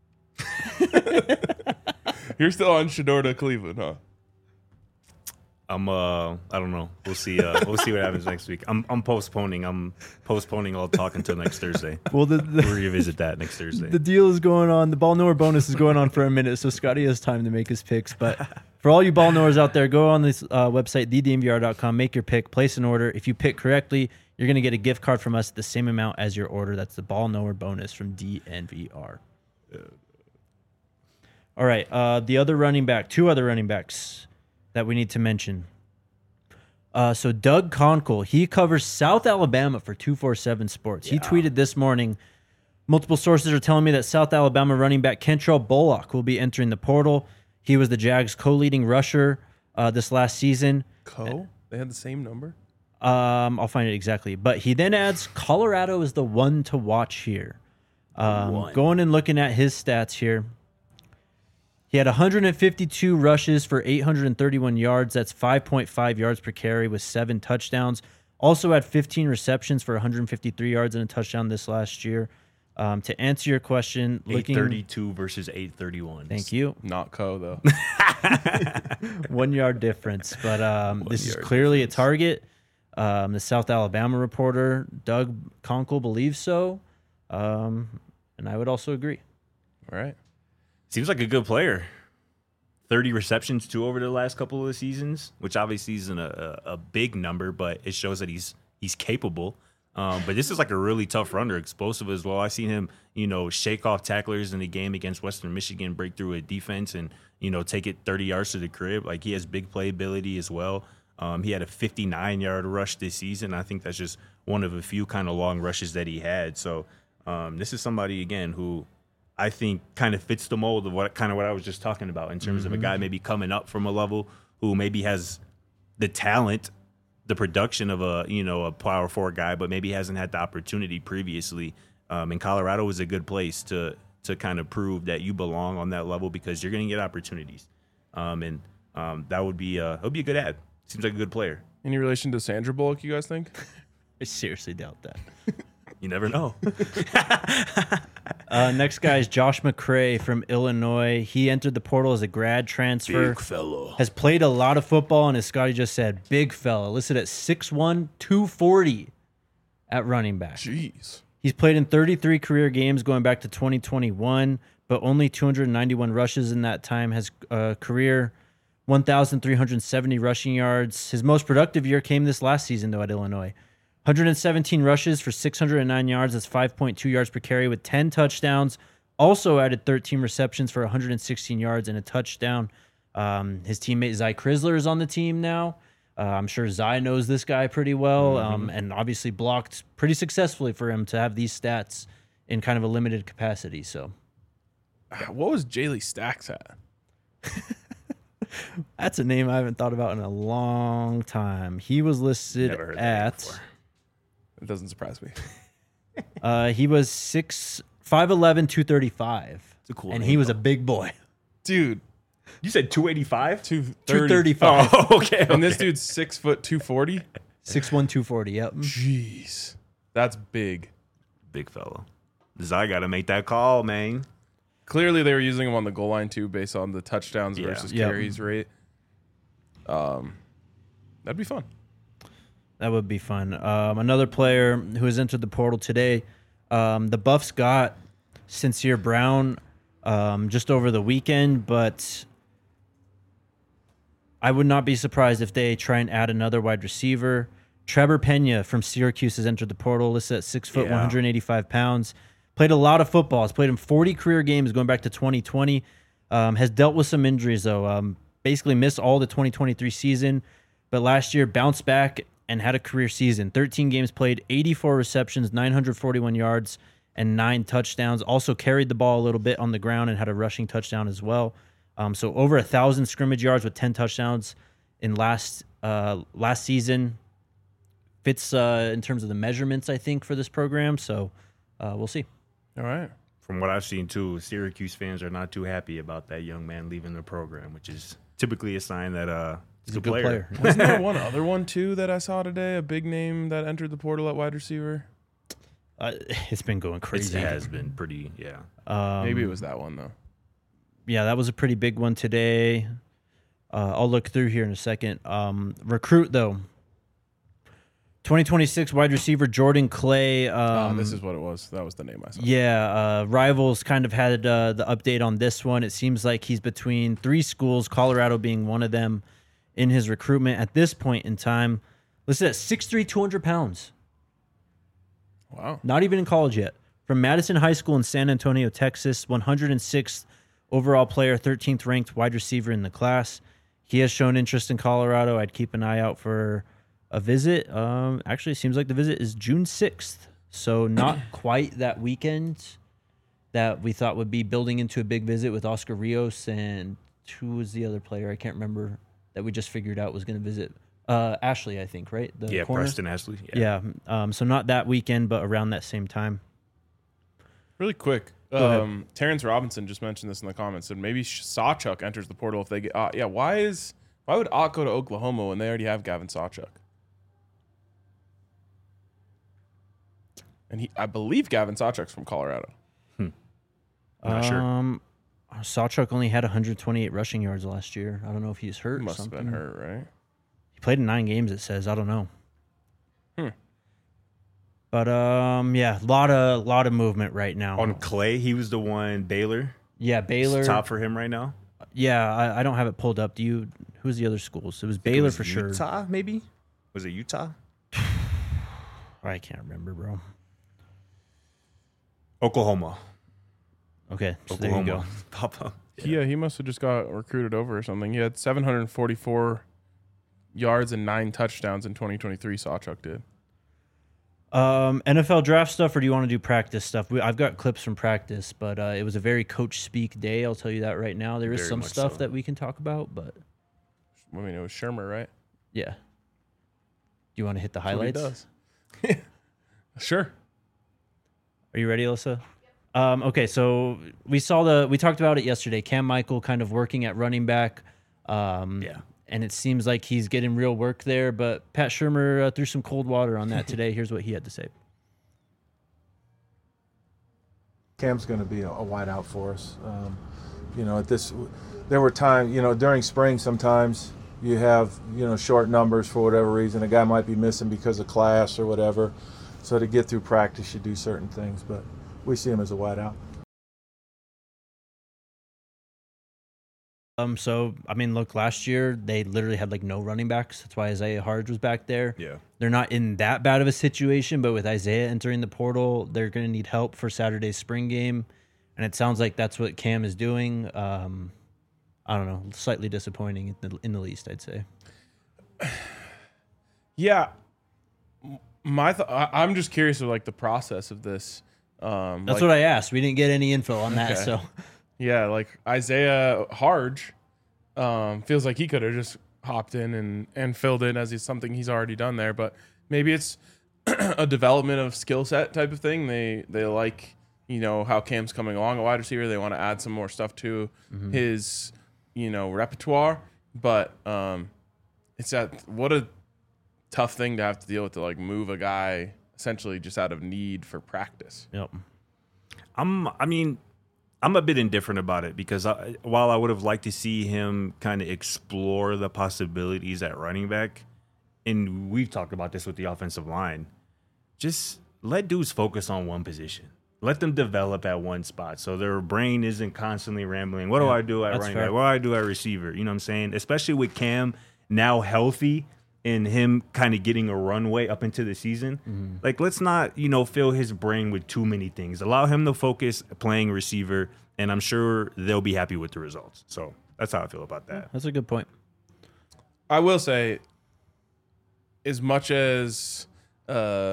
You're still on Shador to Cleveland, huh? I'm uh I don't know. We'll see. Uh, we'll see what happens next week. I'm I'm postponing. I'm postponing all talk until next Thursday. Well, the, the We'll revisit that next Thursday. The deal is going on. The ball knower bonus is going on for a minute, so Scotty has time to make his picks. But for all you ball knowers out there, go on this uh, website, the D N V R dot com, make your pick, place an order. If you pick correctly, you're going to get a gift card from us, the same amount as your order. That's the ball knower bonus from D N V R. All All right. Uh, the other running back, two other running backs that we need to mention. Uh, so Doug Conkle, he covers South Alabama for two forty-seven Sports. He tweeted this morning, multiple sources are telling me that South Alabama running back Kentrell Bullock will be entering the portal. He was the Jags' co-leading rusher uh, this last season. Co? They had the same number? Um, I'll find it exactly. But he then adds Colorado is the one to watch here. Um, going and looking at his stats here. He had one hundred fifty-two rushes for eight hundred thirty-one yards. That's five point five yards per carry with seven touchdowns. Also had fifteen receptions for one hundred fifty-three yards and a touchdown this last year. Um, to answer your question, looking eight thirty-two versus eight thirty-one. Thank you. Not Co, though. One yard difference. But um, this is yard clearly difference. a target. Um, the South Alabama reporter, Doug Conkle, believes so. Um, and I would also agree. All right. Seems like a good player. thirty receptions, too, over the last couple of the seasons, which obviously isn't a, a, a big number, but it shows that he's he's capable. Um, but this is like a really tough runner, explosive as well. I've seen him, you know, shake off tacklers in the game against Western Michigan, break through a defense and, you know, take it thirty yards to the crib. Like, he has big playability as well. Um, he had a fifty-nine-yard rush this season. I think that's just one of a few kind of long rushes that he had. So um, this is somebody, again, who I think kind of fits the mold of what kind of what I was just talking about in terms mm-hmm. of a guy maybe coming up from a level who maybe has the talent, the production of a, you know, a power four guy, but maybe hasn't had the opportunity previously. Um, and Colorado is a good place to to kind of prove that you belong on that level because you're going to get opportunities. Um, and um, that would be a, it would be a good ad. Seems like a good player. Any relation to Sandra Bullock, you guys think? I seriously doubt that. You never know. uh, next guy is Josh McCray from Illinois. He entered the portal as a grad transfer. Big fellow. Has played a lot of football, and as Scotty just said, big fella. Listed at six one, two forty at running back. Jeez. He's played in thirty-three career games going back to twenty twenty-one, but only two hundred ninety-one rushes in that time. Has a career one thousand three hundred seventy rushing yards. His most productive year came this last season, though, at Illinois. one hundred seventeen rushes for six hundred nine yards. That's five point two yards per carry with ten touchdowns. Also added thirteen receptions for one hundred sixteen yards and a touchdown. Um, his teammate Zy Crisler is on the team now. Uh, I'm sure Zy knows this guy pretty well, Mm-hmm. um, and obviously blocked pretty successfully for him to have these stats in kind of a limited capacity. So, What was Jaylee Stacks at? that's a name I haven't thought about in a long time. He was listed Never heard that name at before. It doesn't surprise me. uh, he was six five eleven, two thirty-five. It's a cool and name, he was though. a big boy. Dude, You said two eighty-five? two two thirty. thirty-five. Oh, okay. And this okay. dude's six foot two forty. six one, two forty, yep. Jeez. That's big. Big fellow. Zy got to make that call, man. Clearly they were using him on the goal line too based on the touchdowns Yeah. versus Yep. carries rate. Um that'd be fun. That would be fun. Um, another player who has entered the portal today, um, the Buffs got Sincere Brown um, just over the weekend, but I would not be surprised if they try and add another wide receiver. Trevor Pena from Syracuse has entered the portal, listed at six foot, Yeah. one hundred eighty-five pounds. Played a lot of football. Has played in forty career games going back to twenty twenty. Um, has dealt with some injuries, though. Um, basically missed all the twenty twenty-three season, but last year bounced back and had a career season. thirteen games played, eighty-four receptions, nine hundred forty-one yards, and nine touchdowns. Also carried the ball a little bit on the ground and had a rushing touchdown as well. Um, so over a thousand scrimmage yards with ten touchdowns in last uh, last season. Fits uh, in terms of the measurements, I think, for this program. So uh, we'll see. All right. From what I've seen, too, Syracuse fans are not too happy about that young man leaving the program, which is typically a sign that uh, he's, He's a good player. Wasn't there one other one too that I saw today? A big name that entered the portal at wide receiver? Uh, it's been going It crazy. has been pretty, yeah. Um, Maybe it was that one though. Yeah, that was a pretty big one today. Uh, I'll look through here in a second. Um, recruit, though. twenty twenty-six wide receiver Jordan Clay. Um, oh, this is what it was. That was the name I saw. Yeah, uh, Rivals kind of had uh, the update on this one. It seems like he's between three schools, Colorado being one of them, in his recruitment at this point in time. Listed at six three, two hundred pounds. Wow. Not even in college yet. From Madison High School in San Antonio, Texas, one hundred sixth overall player, thirteenth ranked wide receiver in the class. He has shown interest in Colorado. I'd keep an eye out for a visit. Um, actually, it seems like the visit is June sixth, so not quite that weekend that we thought would be building into a big visit with Oscar Rios and who was the other player? I can't remember that we just figured out was going to visit. Uh, Ashley, I think, right? The yeah, corner? Preston Ashley. Yeah. yeah um, so not that weekend, but around that same time. Really quick. ahead. Um, Terrence Robinson just mentioned this in the comments. Said maybe Sawchuk enters the portal if they get. Uh, yeah, why is why would Ott go to Oklahoma when they already have Gavin Sawchuk? And he, I believe Gavin Sawchuk's from Colorado. Hmm. I'm not sure. Um, Sawchuk only had one hundred twenty-eight rushing yards last year. I don't know if he's hurt. He or must have something. been hurt, right? He played in nine games. It says. I don't know. Hmm. But um, yeah, a lot of lot of movement right now. On Clay, he was the one. Baylor. Yeah, Baylor. It's top for him right now. Yeah, I, I don't have it pulled up. Do you? Who's the other schools? It was Baylor It was for sure. Utah, maybe. Was it Utah? I can't remember, bro. Oklahoma. Okay, so Oklahoma. there you go. Pop up. Yeah, he must have just got recruited over or something. He had seven hundred forty-four yards and nine touchdowns in twenty twenty-three. Sawchuk did. Um, N F L draft stuff, or do you want to do practice stuff? We, I've got clips from practice, but uh, it was a very coach speak day. I'll tell you that right now. There is Very some much stuff so. that we can talk about, but I mean, it was Shermer, right? yeah. Do you want to hit the That's what he highlights? does. Sure. Are you ready, Alyssa? Um, okay, so we saw the we talked about it yesterday. Cam Michael kind of working at running back. Um, Yeah. And it seems like he's getting real work there. But Pat Shurmur uh, threw some cold water on that today. Here's what he had to say. Cam's going to be a, a wide out for us. Um, you know, at this, there were times, you know, during spring sometimes you have, you know, short numbers for whatever reason. A guy might be missing because of class or whatever. So to get through practice, you do certain things. But we see him as a wide out. Um, so I mean, look, last year they literally had like no running backs. That's why Isaiah Harge was back there. Yeah. They're not in that bad of a situation, but with Isaiah entering the portal, they're going to need help for Saturday's spring game, and it sounds like that's what Cam is doing. Um, I don't know, slightly disappointing in the, in the least, I'd say. Yeah. My th- I- I'm just curious of like the process of this. Um, That's like, what I asked. We didn't get any info on that, Okay. so Yeah, like Isaiah Harge um, feels like he could have just hopped in and, and filled in as he's something he's already done there. But maybe it's a development of skill set type of thing. They they like, you know, how Cam's coming along a wide receiver. They want to add some more stuff to Mm-hmm. his, you know, repertoire. But um, it's that what a tough thing to have to deal with to like move a guy essentially just out of need for practice. yep. I'm. I mean, I'm a bit indifferent about it because I, while I would have liked to see him kind of explore the possibilities at running back, and we've talked about this with the offensive line, just let dudes focus on one position. Let them develop at one spot so their brain isn't constantly rambling. What do Yeah, I do at that's running fair. back? What do I do at receiver? You know what I'm saying? Especially with Cam now healthy and him kind of getting a runway up into the season. Mm-hmm. Like, let's not, you know, fill his brain with too many things. Allow him to focus playing receiver, and I'm sure they'll be happy with the results. So that's how I feel about that. That's a good point. I will say, as much as uh,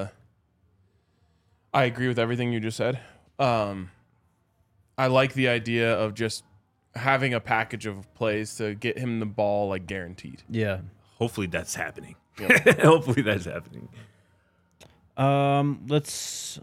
I agree with everything you just said, um, I like the idea of just having a package of plays to get him the ball like guaranteed. Yeah. Hopefully that's happening. Yep. Hopefully that's happening. Um, let's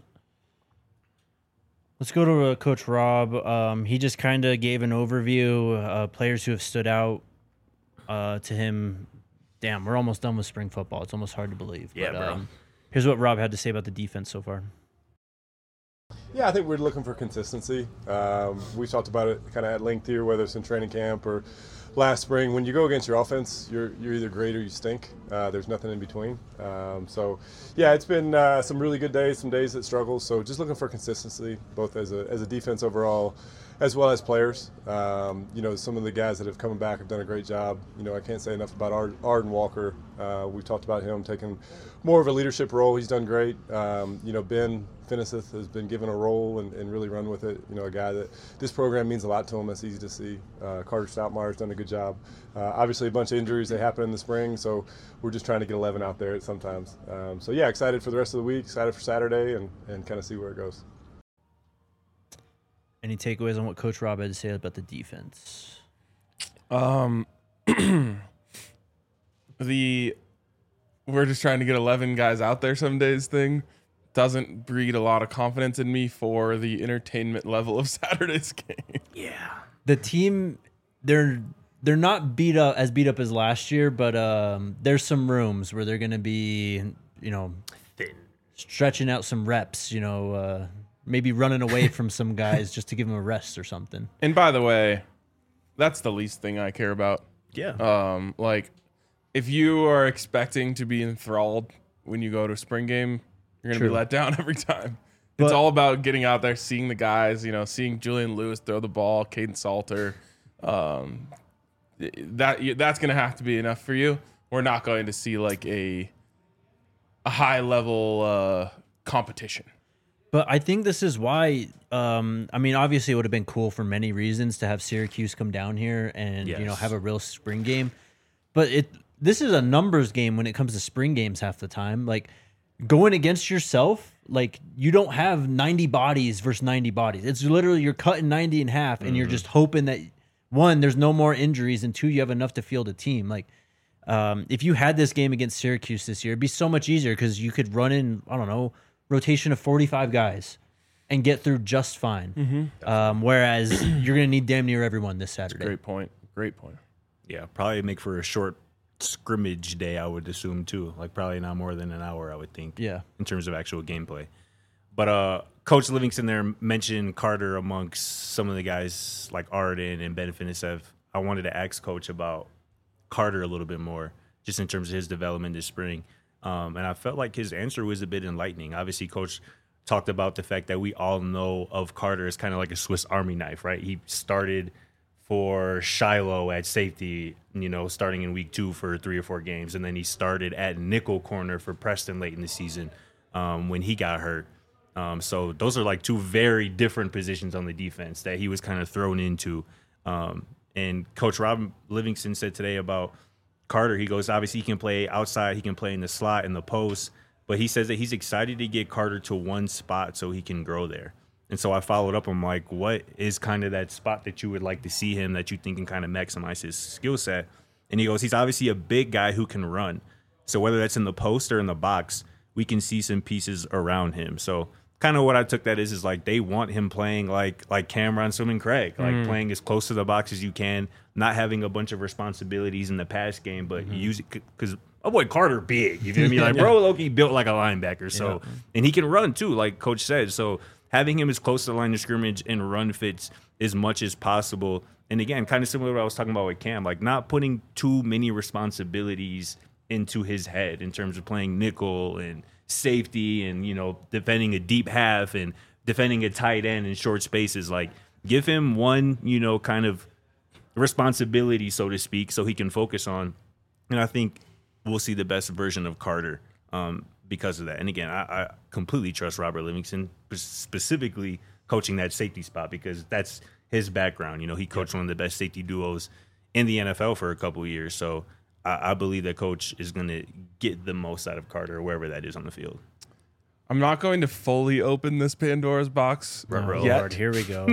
let's go to uh, Coach Rob. Um, he just kind of gave an overview. Uh, players who have stood out uh, to him. Damn, we're almost done with spring football. It's almost hard to believe. Yeah, but, bro. Um, here's what Rob had to say about the defense so far. Yeah, I think we're looking for consistency. Um, we talked about it kind of at length here, whether it's in training camp or last spring. When you go against your offense, you're you're either great or you stink. Uh, there's nothing in between. Um, so, yeah, it's been uh, some really good days, some days that struggle. So just looking for consistency, both as a as a defense overall as well as players. Um, you know, some of the guys that have come back have done a great job. You know, I can't say enough about Ar- Arden Walker. Uh, we've talked about him taking more of a leadership role. He's done great. Um, you know, Ben Finnesseth has been given a role and, and really run with it. You know, a guy that this program means a lot to him. That's easy to see. Uh, Carter Stoutmeyer's done a good job. Uh, obviously, a bunch of injuries that happen in the spring, so we're just trying to get eleven out there sometimes. Um, so, yeah, excited for the rest of the week, excited for Saturday, and, and kind of see where it goes. Any takeaways on what Coach Rob had to say about the defense? Um, the we're just trying to get eleven guys out there some days thing doesn't breed a lot of confidence in me for the entertainment level of Saturday's game. Yeah. The team, they're they're not beat up as beat up as last year, but um, there's some rooms where they're going to be, you know, Thin. stretching out some reps, you know, uh, maybe running away from some guys just to give them a rest or something. And by the way, that's the least thing I care about. Yeah. Um, like, if you are expecting to be enthralled when you go to a spring game, you're going to be True. let down every time. But- it's all about getting out there, seeing the guys, you know, seeing Julian Lewis throw the ball, Caden Salter. Um, that that's going to have to be enough for you. We're not going to see like a a high level uh, competition. But I think this is why. Um, I mean, obviously, it would have been cool for many reasons to have Syracuse come down here and you know Yes. have a real spring game. But it this is a numbers game when it comes to spring games half the time. Like going against yourself, like you don't have ninety bodies versus ninety bodies. It's literally you're cutting ninety in half, and you're just hoping that one, there's no more injuries, and two, you have enough to field a team. Like um, if you had this game against Syracuse this year, it'd be so much easier because you could run in, I don't know, rotation of forty-five guys and get through just fine. Mm-hmm. Um, whereas you're going to need damn near everyone this Saturday. Great point. Great point. Yeah, probably make for a short scrimmage day, I would assume, too. Like, probably not more than an hour, I would think. Yeah. In terms of actual gameplay. But uh, Coach Livingston there mentioned Carter amongst some of the guys like Arden and Ben Finnesseth. I wanted to ask Coach about Carter a little bit more, just in terms of his development this spring. Um, and I felt like his answer was a bit enlightening. Obviously, Coach talked about the fact that we all know of Carter as kind of like a Swiss Army knife, right? He started for Shiloh at safety, you know, starting in week two for three or four games. And then he started at nickel corner for Preston late in the season um, when he got hurt. Um, so those are like two very different positions on the defense that he was kind of thrown into. Um, and Coach Rob Livingston said today about Carter, he goes, obviously he can play outside, he can play in the slot, in the post, but he says that he's excited to get Carter to one spot so he can grow there. And so I followed up. I'm like, what is kind of that spot that you would like to see him that you think can kind of maximize his skill set? And he goes, he's obviously a big guy who can run. So whether that's in the post or in the box, we can see some pieces around him. So kind of what I took that is, is like they want him playing like like Cameron Swimming Craig, like mm. playing as close to the box as you can, not having a bunch of responsibilities in the pass game, but mm-hmm. use it because oh boy, Carter big. You feel me? Like, yeah. bro, Loki built like a linebacker. So yeah. and he can run too, like Coach said. So having him as close to the line of scrimmage and run fits as much as possible. And again, kind of similar to what I was talking about with Cam, like not putting too many responsibilities into his head in terms of playing nickel and safety and, you know, defending a deep half and defending a tight end in short spaces. Like, give him one, you know, kind of responsibility, so to speak, so he can focus on. And I think we'll see the best version of Carter um, because of that. And again, I, I completely trust Robert Livingston, specifically coaching that safety spot, because that's his background. You know, he coached one of the best safety duos in the N F L for a couple of years. So I, I believe that Coach is going to get the most out of Carter, wherever that is on the field. I'm not going to fully open this Pandora's box oh, yet. Lord, here we go.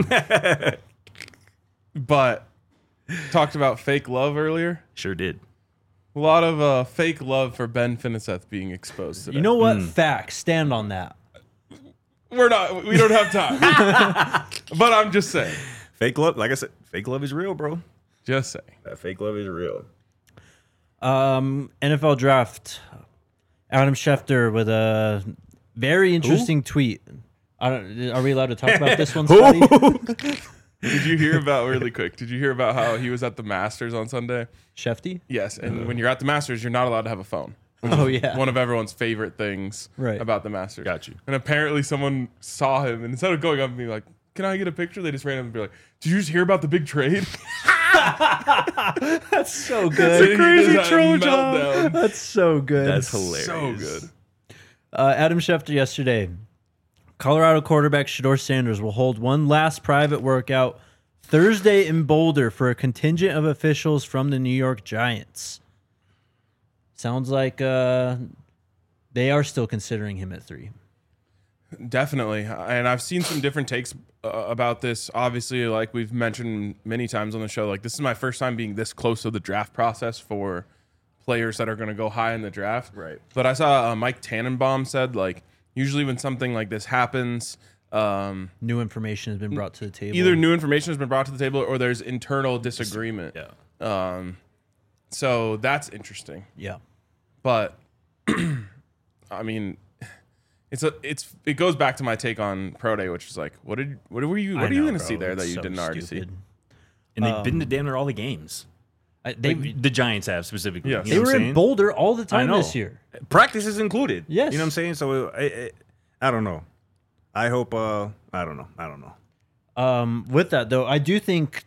But talked about fake love earlier. Sure did. A lot of uh, fake love for Ben Finnesseth being exposed today. You know what? Mm. Facts. Stand on that. We're not. We don't have time. But I'm just saying. Fake love, like I said, fake love is real, bro. Just saying. That fake love is real. Um, N F L draft. Adam Schefter with a very interesting Who? tweet. I don't. Are we allowed to talk about this one, Scotty? Did you hear about, really quick, did you hear about how he was at the Masters on Sunday? Shefty? Yes, and uh, when you're at the Masters, you're not allowed to have a phone. Oh, yeah. One of everyone's favorite things right. about the Masters. Got you. And apparently someone saw him, and instead of going up and being like, can I get a picture? They just ran up and be like, did you just hear about the big trade? That's so good. Crazy troll meltdown. That's so good. That's hilarious. So good. Uh, Adam Schefter yesterday. Colorado quarterback Shedeur Sanders will hold one last private workout Thursday in Boulder for a contingent of officials from the New York Giants. Sounds like uh, they are still considering him at three. Definitely. And I've seen some different takes uh, about this. Obviously, like we've mentioned many times on the show, like this is my first time being this close to the draft process for players that are going to go high in the draft. Right. But I saw uh, Mike Tannenbaum said, like, usually when something like this happens, um, New information has been brought to the table. either new information has been brought to the table or there's internal disagreement. Yeah. Um, so that's interesting. Yeah. But I mean, it's a it's it goes back to my take on Pro Day, which is like, what did what were you what I are you know, going to bro. see there that It's you so didn't already stupid. see? And they've Um, been to damn near all the games. I, they Like, the Giants have specifically. Yes. You they know what were I'm in saying? Boulder all the time know. this year. Practice is included. Yes. You know what I'm saying? So I, I, I don't know. I hope. Uh, I don't know. I don't know. Um, with that though, I do think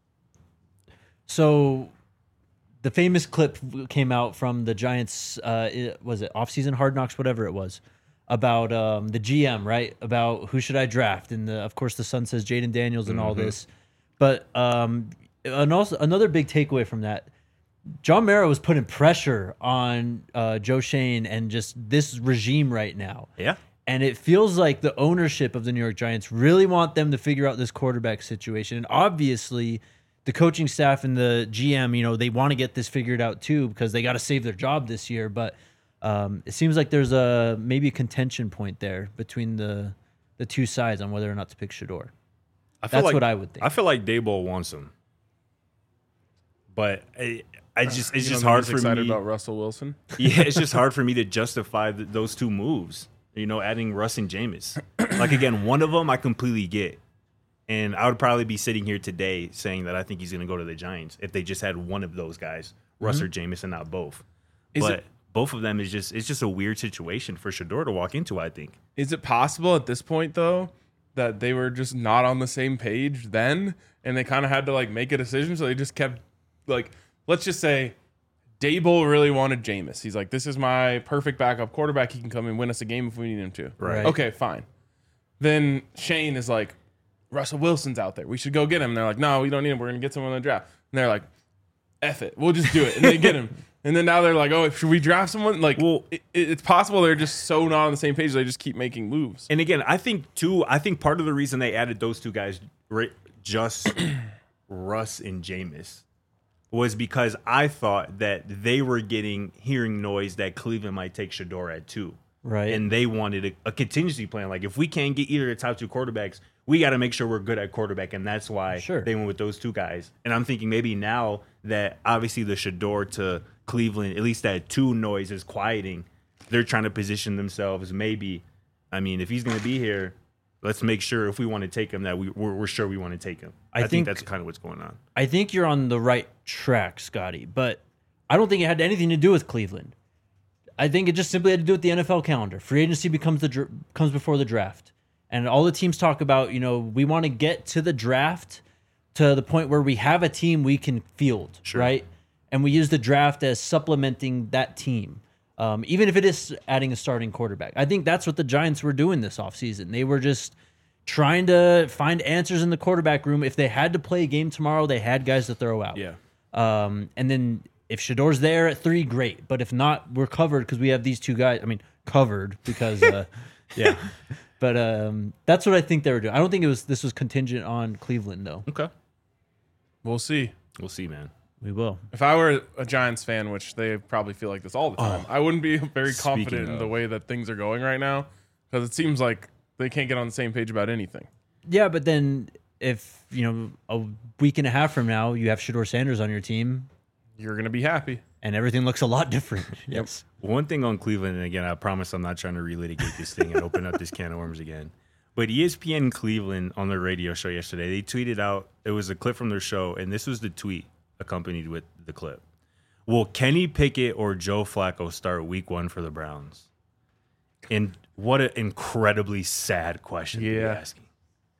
so. The famous clip came out from the Giants. Uh, it, was it off-season Hard Knocks, whatever it was, about um, the G M, right? About who should I draft, and the, of course the Sun says Jaden Daniels and all this. But um, and also another big takeaway from that, John Mara was putting pressure on uh, Joe Shane and just this regime right now. Yeah. And it feels like the ownership of the New York Giants really want them to figure out this quarterback situation. And obviously, the coaching staff and the G M, you know, they want to get this figured out too because they got to save their job this year. But um, it seems like there's a maybe a contention point there between the the two sides on whether or not to pick Shedeur. I feel That's like, what I would think. I feel like Daboll wants him, but I, I just it's You just don't hard think for he's excited me. about Russell Wilson. Yeah, it's just hard for me to justify th- those two moves. You know, adding Russ and Jameis. Like again, one of them I completely get, and I would probably be sitting here today saying that I think he's going to go to the Giants if they just had one of those guys, Russ or Jameis, and not both. Is but it- both of them is just it's just a weird situation for Shedeur to walk into. I think. Is it possible at this point though that they were just not on the same page then, and they kind of had to like make a decision, so they just kept like, let's just say Daboll really wanted Jameis. He's like, this is my perfect backup quarterback. He can come and win us a game if we need him to. Right. Okay, fine. Then Shane is like, Russell Wilson's out there. We should go get him. And they're like, no, we don't need him. We're going to get someone in the draft. And they're like, F it. We'll just do it. And they get him. And then now they're like, oh, should we draft someone? Like, Well- it, it's possible they're just so not on the same page. They just keep making moves. And again, I think too. I think part of the reason they added those two guys, right, just Russ and Jameis, was because I thought that they were getting hearing noise that Cleveland might take Shedeur at two. Right. And they wanted a, a contingency plan. Like, if we can't get either of the top two quarterbacks, we got to make sure we're good at quarterback. And that's why Sure. they went with those two guys. And I'm thinking maybe now that obviously the Shedeur to Cleveland, at least that two noise is quieting, they're trying to position themselves. Maybe, I mean, if he's going to be here, let's make sure if we want to take him that we, we're, we're sure we want to take him. I I, think, think- that's kind of what's going on. I think you're on the right track, Scotty, but I don't think it had anything to do with Cleveland. I think it just simply had to do with the N F L calendar. Free agency becomes the dr- comes before the draft, and all the teams talk about, you know, we want to get to the draft to the point where we have a team we can field, Sure. right? And we use the draft as supplementing that team, um, even if it is adding a starting quarterback. I think that's what the Giants were doing this offseason. They were just trying to find answers in the quarterback room. If they had to play a game tomorrow, they had guys to throw out. Yeah. Um, and then if Shedeur's there at three, great. But if not, we're covered because we have these two guys. I mean, covered because, uh, yeah. But um, that's what I think they were doing. I don't think it was this was contingent on Cleveland, though. Okay. We'll see. We'll see, man. We will. If I were a Giants fan, which they probably feel like this all the time, I wouldn't be very Speaking confident in of. the way that things are going right now because it seems like they can't get on the same page about anything. Yeah, but then if, you know, a week and a half from now, you have Shedeur Sanders on your team You're going to be happy. and everything looks a lot different. Yes. One thing on Cleveland, and again, I promise I'm not trying to relitigate this thing and open up this can of worms again. But E S P N Cleveland on their radio show yesterday, they tweeted out, it was a clip from their show, and this was the tweet accompanied with the clip. Will Kenny Pickett or Joe Flacco start week one for the Browns? And what an incredibly sad question to be Yeah. asking.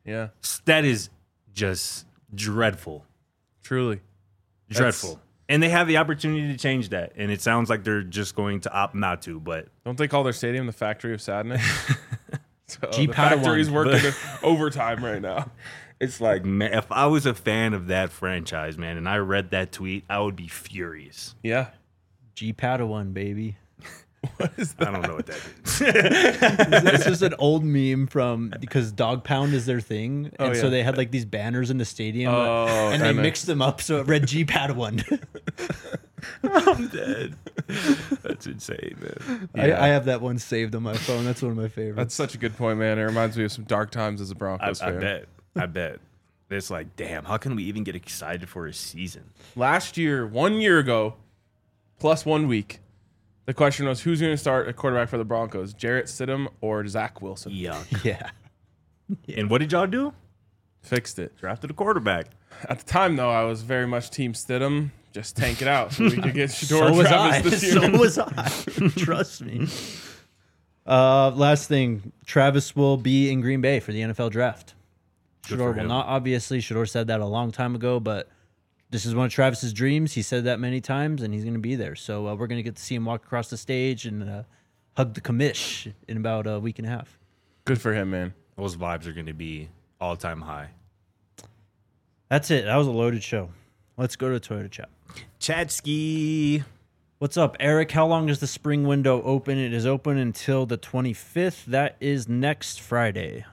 Yeah, That is just dreadful. truly. Dreadful. That's- And they have the opportunity to change that. And it sounds like they're just going to opt not to. But Don't they call their stadium the Factory of Sadness? So G the Padawan. factory's working overtime right now. it's like, man, if I was a fan of that franchise, man, and I read that tweet, I would be furious. Yeah. G Padawan, baby. What is that? I don't know what that is. It's just an old meme from because Dog Pound is their thing, and Oh, so yeah. they had like these banners in the stadium, Oh, and they and I- mixed them up so it read G Padawan. I'm dead. That's insane, man. I, I have that one saved on my phone. That's one of my favorites. That's such a good point, man. It reminds me of some dark times as a I, Broncos I fan. bet. I bet. It's like, damn, how can we even get excited for a season? Last year, one year ago, plus one week, the question was who's going to start at quarterback for the Broncos, Jarrett Stidham or Zach Wilson? Yuck. yeah. And what did y'all do? Fixed it. Drafted a quarterback. At the time, though, I was very much Team Stidham. Just tank it out so we could get Shador So was I. Travis this year. So was I. Trust me. Uh, last thing, Travis will be in Green Bay for the N F L draft. Good Shador for will him. not, obviously. Shador said that a long time ago, but this is one of Travis's dreams. He said that many times, and he's going to be there. So uh, we're going to get to see him walk across the stage and uh, hug the commish in about a week and a half. Good for him, man. Those vibes are going to be all-time high. That's it. That was a loaded show. Let's go to Toyota Chat. Chatsky. What's up, Eric? How long is the spring window open? It is open until the twenty-fifth. That is next Friday.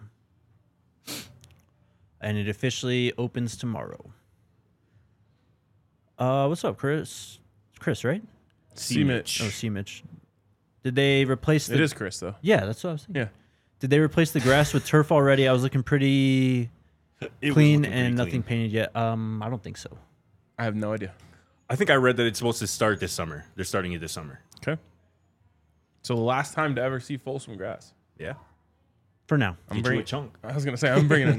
And it officially opens tomorrow. Uh, what's up, Chris? It's Chris, right? C. Mitch. Oh, C. Mitch. Did they replace the... It is Chris, though. Yeah, that's what I was thinking. Yeah. Did they replace the grass with turf already? I was looking pretty It was clean looking pretty and nothing clean. painted yet. Um, I don't think so. I have no idea. I think I read that it's supposed to start this summer. They're starting it this summer. Okay. So the last time to ever see Folsom grass. Yeah. For now. I'm Get you a bringing. chunk. I was gonna say I'm bringing a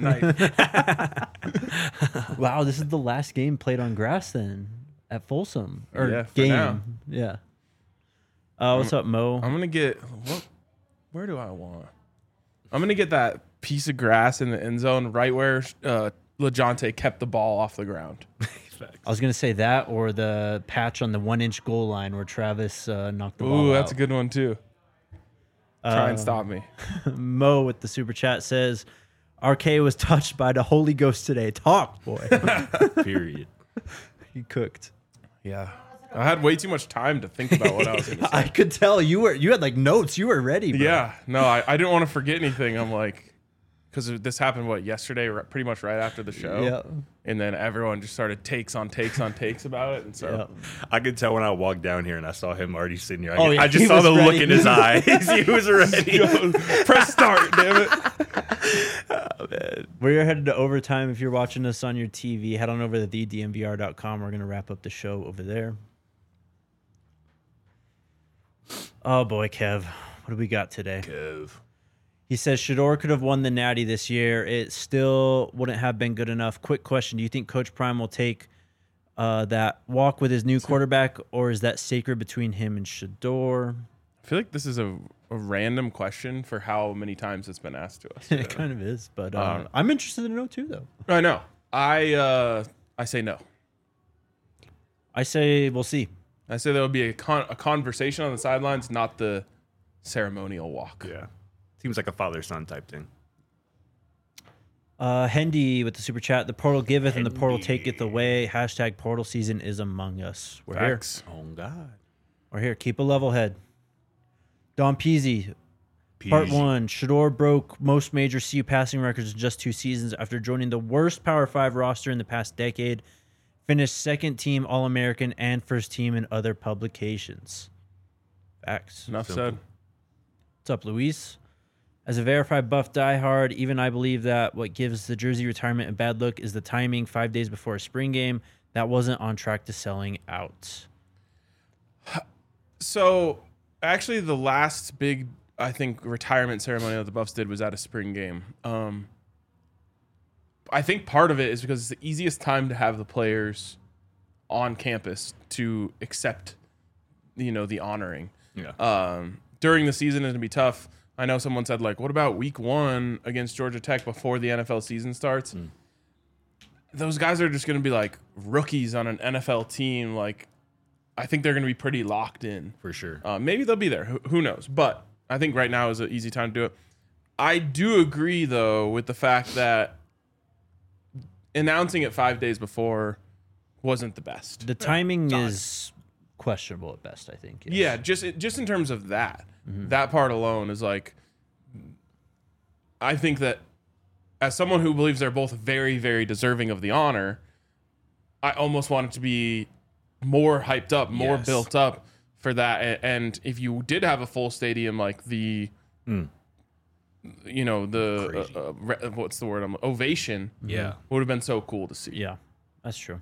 knife. Wow, this is the last game played on grass then at Folsom. Or Yeah, for game. now. Yeah. Uh, what's up, Mo? I'm gonna get. What? Where do I want? I'm gonna get that piece of grass in the end zone right where uh, LeJontay kept the ball off the ground. I was gonna say that or the patch on the one inch goal line where Travis uh, knocked the ball Ooh, out. that's a good one too. Try and Uh, stop me. Mo with the super chat says, R K was touched by the Holy Ghost today. Talk, boy. Period. He cooked. Yeah, I had way too much time to think about what I was gonna say. I could tell you were you had like notes. You were ready. Bro. Yeah, no, I, I didn't want to forget anything. I'm like, because this happened what yesterday, ri- pretty much right after the show. Yeah. And then everyone just started takes on takes on takes about it, and so Yeah. I could tell when I walked down here and I saw him already sitting here. I, Oh, yeah, I just he saw was the look ready. in his eyes. He was ready. press start, damn it. Oh, man. We're headed to overtime. If you're watching us on your T V, head on over to the d m v r dot com. We're gonna wrap up the show over there. Oh boy, Kev, what do we got today? Kev. He says Shador could have won the Natty this year. It still wouldn't have been good enough. Quick question: do you think Coach Prime will take uh, that walk with his new quarterback, or is that sacred between him and Shador? I feel like this is a, a random question for how many times it's been asked to us. It kind of is, but uh, Um, I'm interested to know too, though. I know. I uh, I say no. I say we'll see. I say there will be a con- a conversation on the sidelines, not the ceremonial walk. Yeah. Seems like a father-son type thing. Uh, Hendy with the super chat. The portal giveth and the portal taketh away. Hashtag portal season is among us. We're here. Facts. Oh, God. We're here. Keep a level head. Don Peasy. Part one. Shador broke most major C U passing records in just two seasons after joining the worst Power Five roster in the past decade. Finished second team All-American and first team in other publications. Facts. Enough Simple. said. What's up, Luis? As a verified Buff diehard, even I believe that what gives the jersey retirement a bad look is the timing five days before a spring game. That wasn't on track to selling out. So, actually, the last big, I think, retirement ceremony that the Buffs did was at a spring game. Um, I think part of it is because it's the easiest time to have the players on campus to accept, you know, the honoring. Yeah. Um, during the season, it's going to be tough. I know someone said, like, what about week one against Georgia Tech before the N F L season starts? Mm. Those guys are just going to be like rookies on an N F L team. Like, I think they're going to be pretty locked in. For sure. Uh, maybe they'll be there. Who, who knows? But I think right now is an easy time to do it. I do agree, though, with the fact that announcing it five days before wasn't the best. The timing is questionable at best, I think. Yes. Yeah, just just in terms of that. Mm-hmm. That part alone is like, I think that as someone who believes they're both very, very deserving of the honor, I almost want it to be more hyped up, more yes. built up for that. And if you did have a full stadium, like the, mm. you know, the, uh, uh, what's the word? Um, ovation. Yeah. Would have been so cool to see. Yeah, that's true.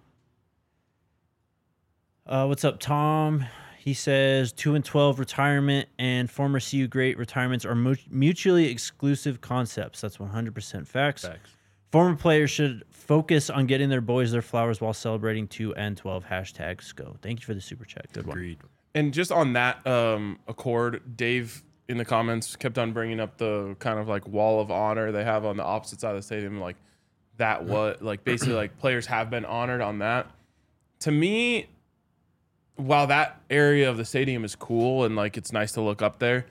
Uh, what's up, Tom? He says two and twelve retirement and former C U great retirements are mu- mutually exclusive concepts. That's one hundred percent facts. Facts. Former players should focus on getting their boys their flowers while celebrating two and twelve. Hashtag SCO. Thank you for the super chat. Good Agreed. one. And just on that um, accord, Dave in the comments kept on bringing up the kind of like wall of honor they have on the opposite side of the stadium. Like that, what like basically like players have been honored on that. To me, while that area of the stadium is cool and like it's nice to look up there,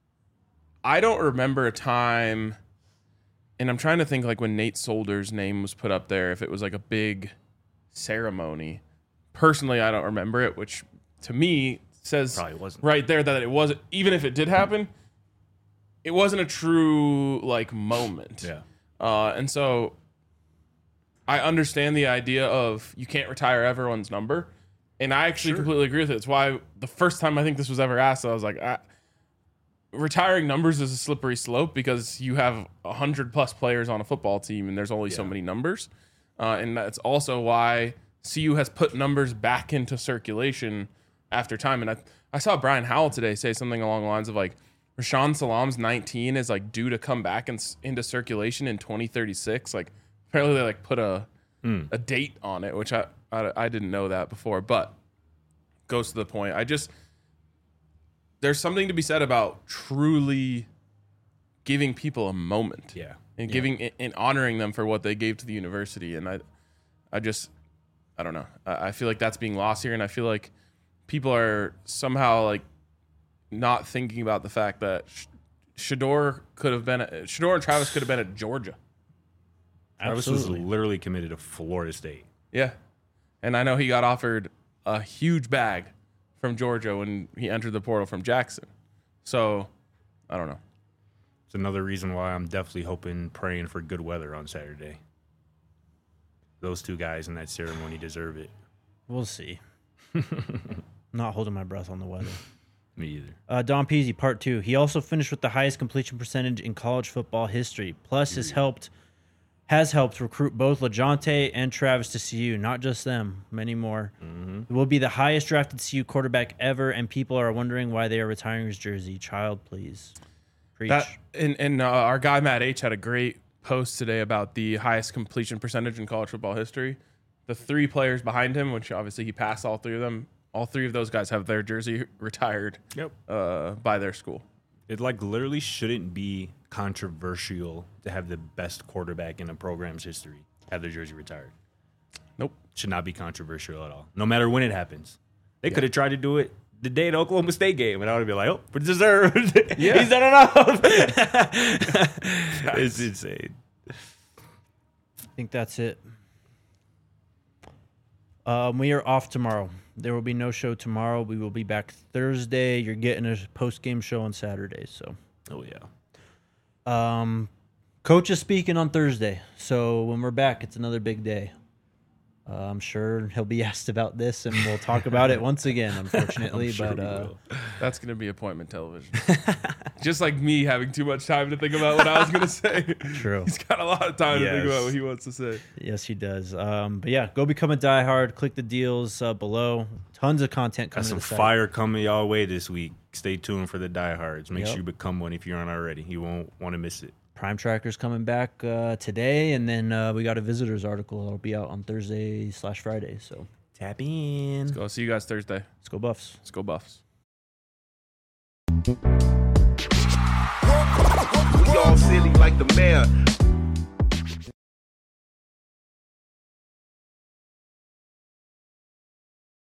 I don't remember a time, and I'm trying to think like when Nate Solder's name was put up there, if it was like a big ceremony. Personally, I don't remember it, which to me says Probably wasn't. right there that it wasn't, even if it did happen, it wasn't a true like moment. Yeah. Uh, and so I understand the idea of you can't retire everyone's number. And I actually sure. completely agree with it. It's why the first time I think this was ever asked, I was like, ah, retiring numbers is a slippery slope because you have one hundred plus players on a football team and there's only yeah. so many numbers. Uh, and that's also why C U has put numbers back into circulation after time. And I, I saw Brian Howell today say something along the lines of like, Rashawn Salam's nineteen is like due to come back in, into circulation in twenty thirty-six. Like apparently they like put a mm. a date on it, which I, I I didn't know that before, but goes to the point. I just, there's something to be said about truly giving people a moment. Yeah. And yeah. giving and honoring them for what they gave to the university. And I, I just, I don't know. I, I feel like that's being lost here. And I feel like people are somehow like not thinking about the fact that Shedeur could have been, at, Shedeur and Travis could have been at Georgia. Travis was literally committed to Florida State. Yeah. And I know he got offered a huge bag from Georgia when he entered the portal from Jackson. So, I don't know. It's another reason why I'm definitely hoping, praying for good weather on Saturday. Those two guys in that ceremony deserve it. We'll see. Not holding my breath on the weather. Me either. Uh, Don Peasy, part two. He also finished with the highest completion percentage in college football history. Plus, has helped has helped recruit both LeJohntay and Travis to C U. Not just them, many more. Mm-hmm. It will be the highest drafted C U quarterback ever, and people are wondering why they are retiring his jersey. Child, please. Preach. That, and and uh, our guy Matt H had a great post today about the highest completion percentage in college football history. The three players behind him, which obviously he passed all three of them, all three of those guys have their jersey retired yep. uh, by their school. It like literally shouldn't be controversial to have the best quarterback in a program's history have their jersey retired. Nope. Should not be controversial at all, no matter when it happens. They Yeah. could have tried to do it the day of the Oklahoma State game, and I would be like, oh, but deserved. Yeah. He's done enough. It's insane. I think that's it. Um, we are off tomorrow. There will be no show tomorrow. We will be back Thursday. You're getting a post-game show on Saturday. So, oh yeah. Um, coach is speaking on Thursday. So when we're back, it's another big day. Uh, I'm sure he'll be asked about this, and we'll talk about it once again. Unfortunately, sure but uh, that's going to be appointment television. Just like me having too much time to think about what I was going to say. True. He's got a lot of time Yes. to think about what he wants to say. yes, he does. Um, but yeah, go become a diehard. Click the deals uh, below. Tons of content Got coming. some to the site. fire coming y'all way this week. Stay tuned for the diehards. Make Yep. sure you become one if you aren't already. You won't want to miss it. Prime Tracker's coming back uh, today, and then uh, we got a visitors article that'll be out on Thursday slash Friday. So Tap in. Go see you guys Thursday. let's go Buffs. Let's go Buffs. all silly like the mayor.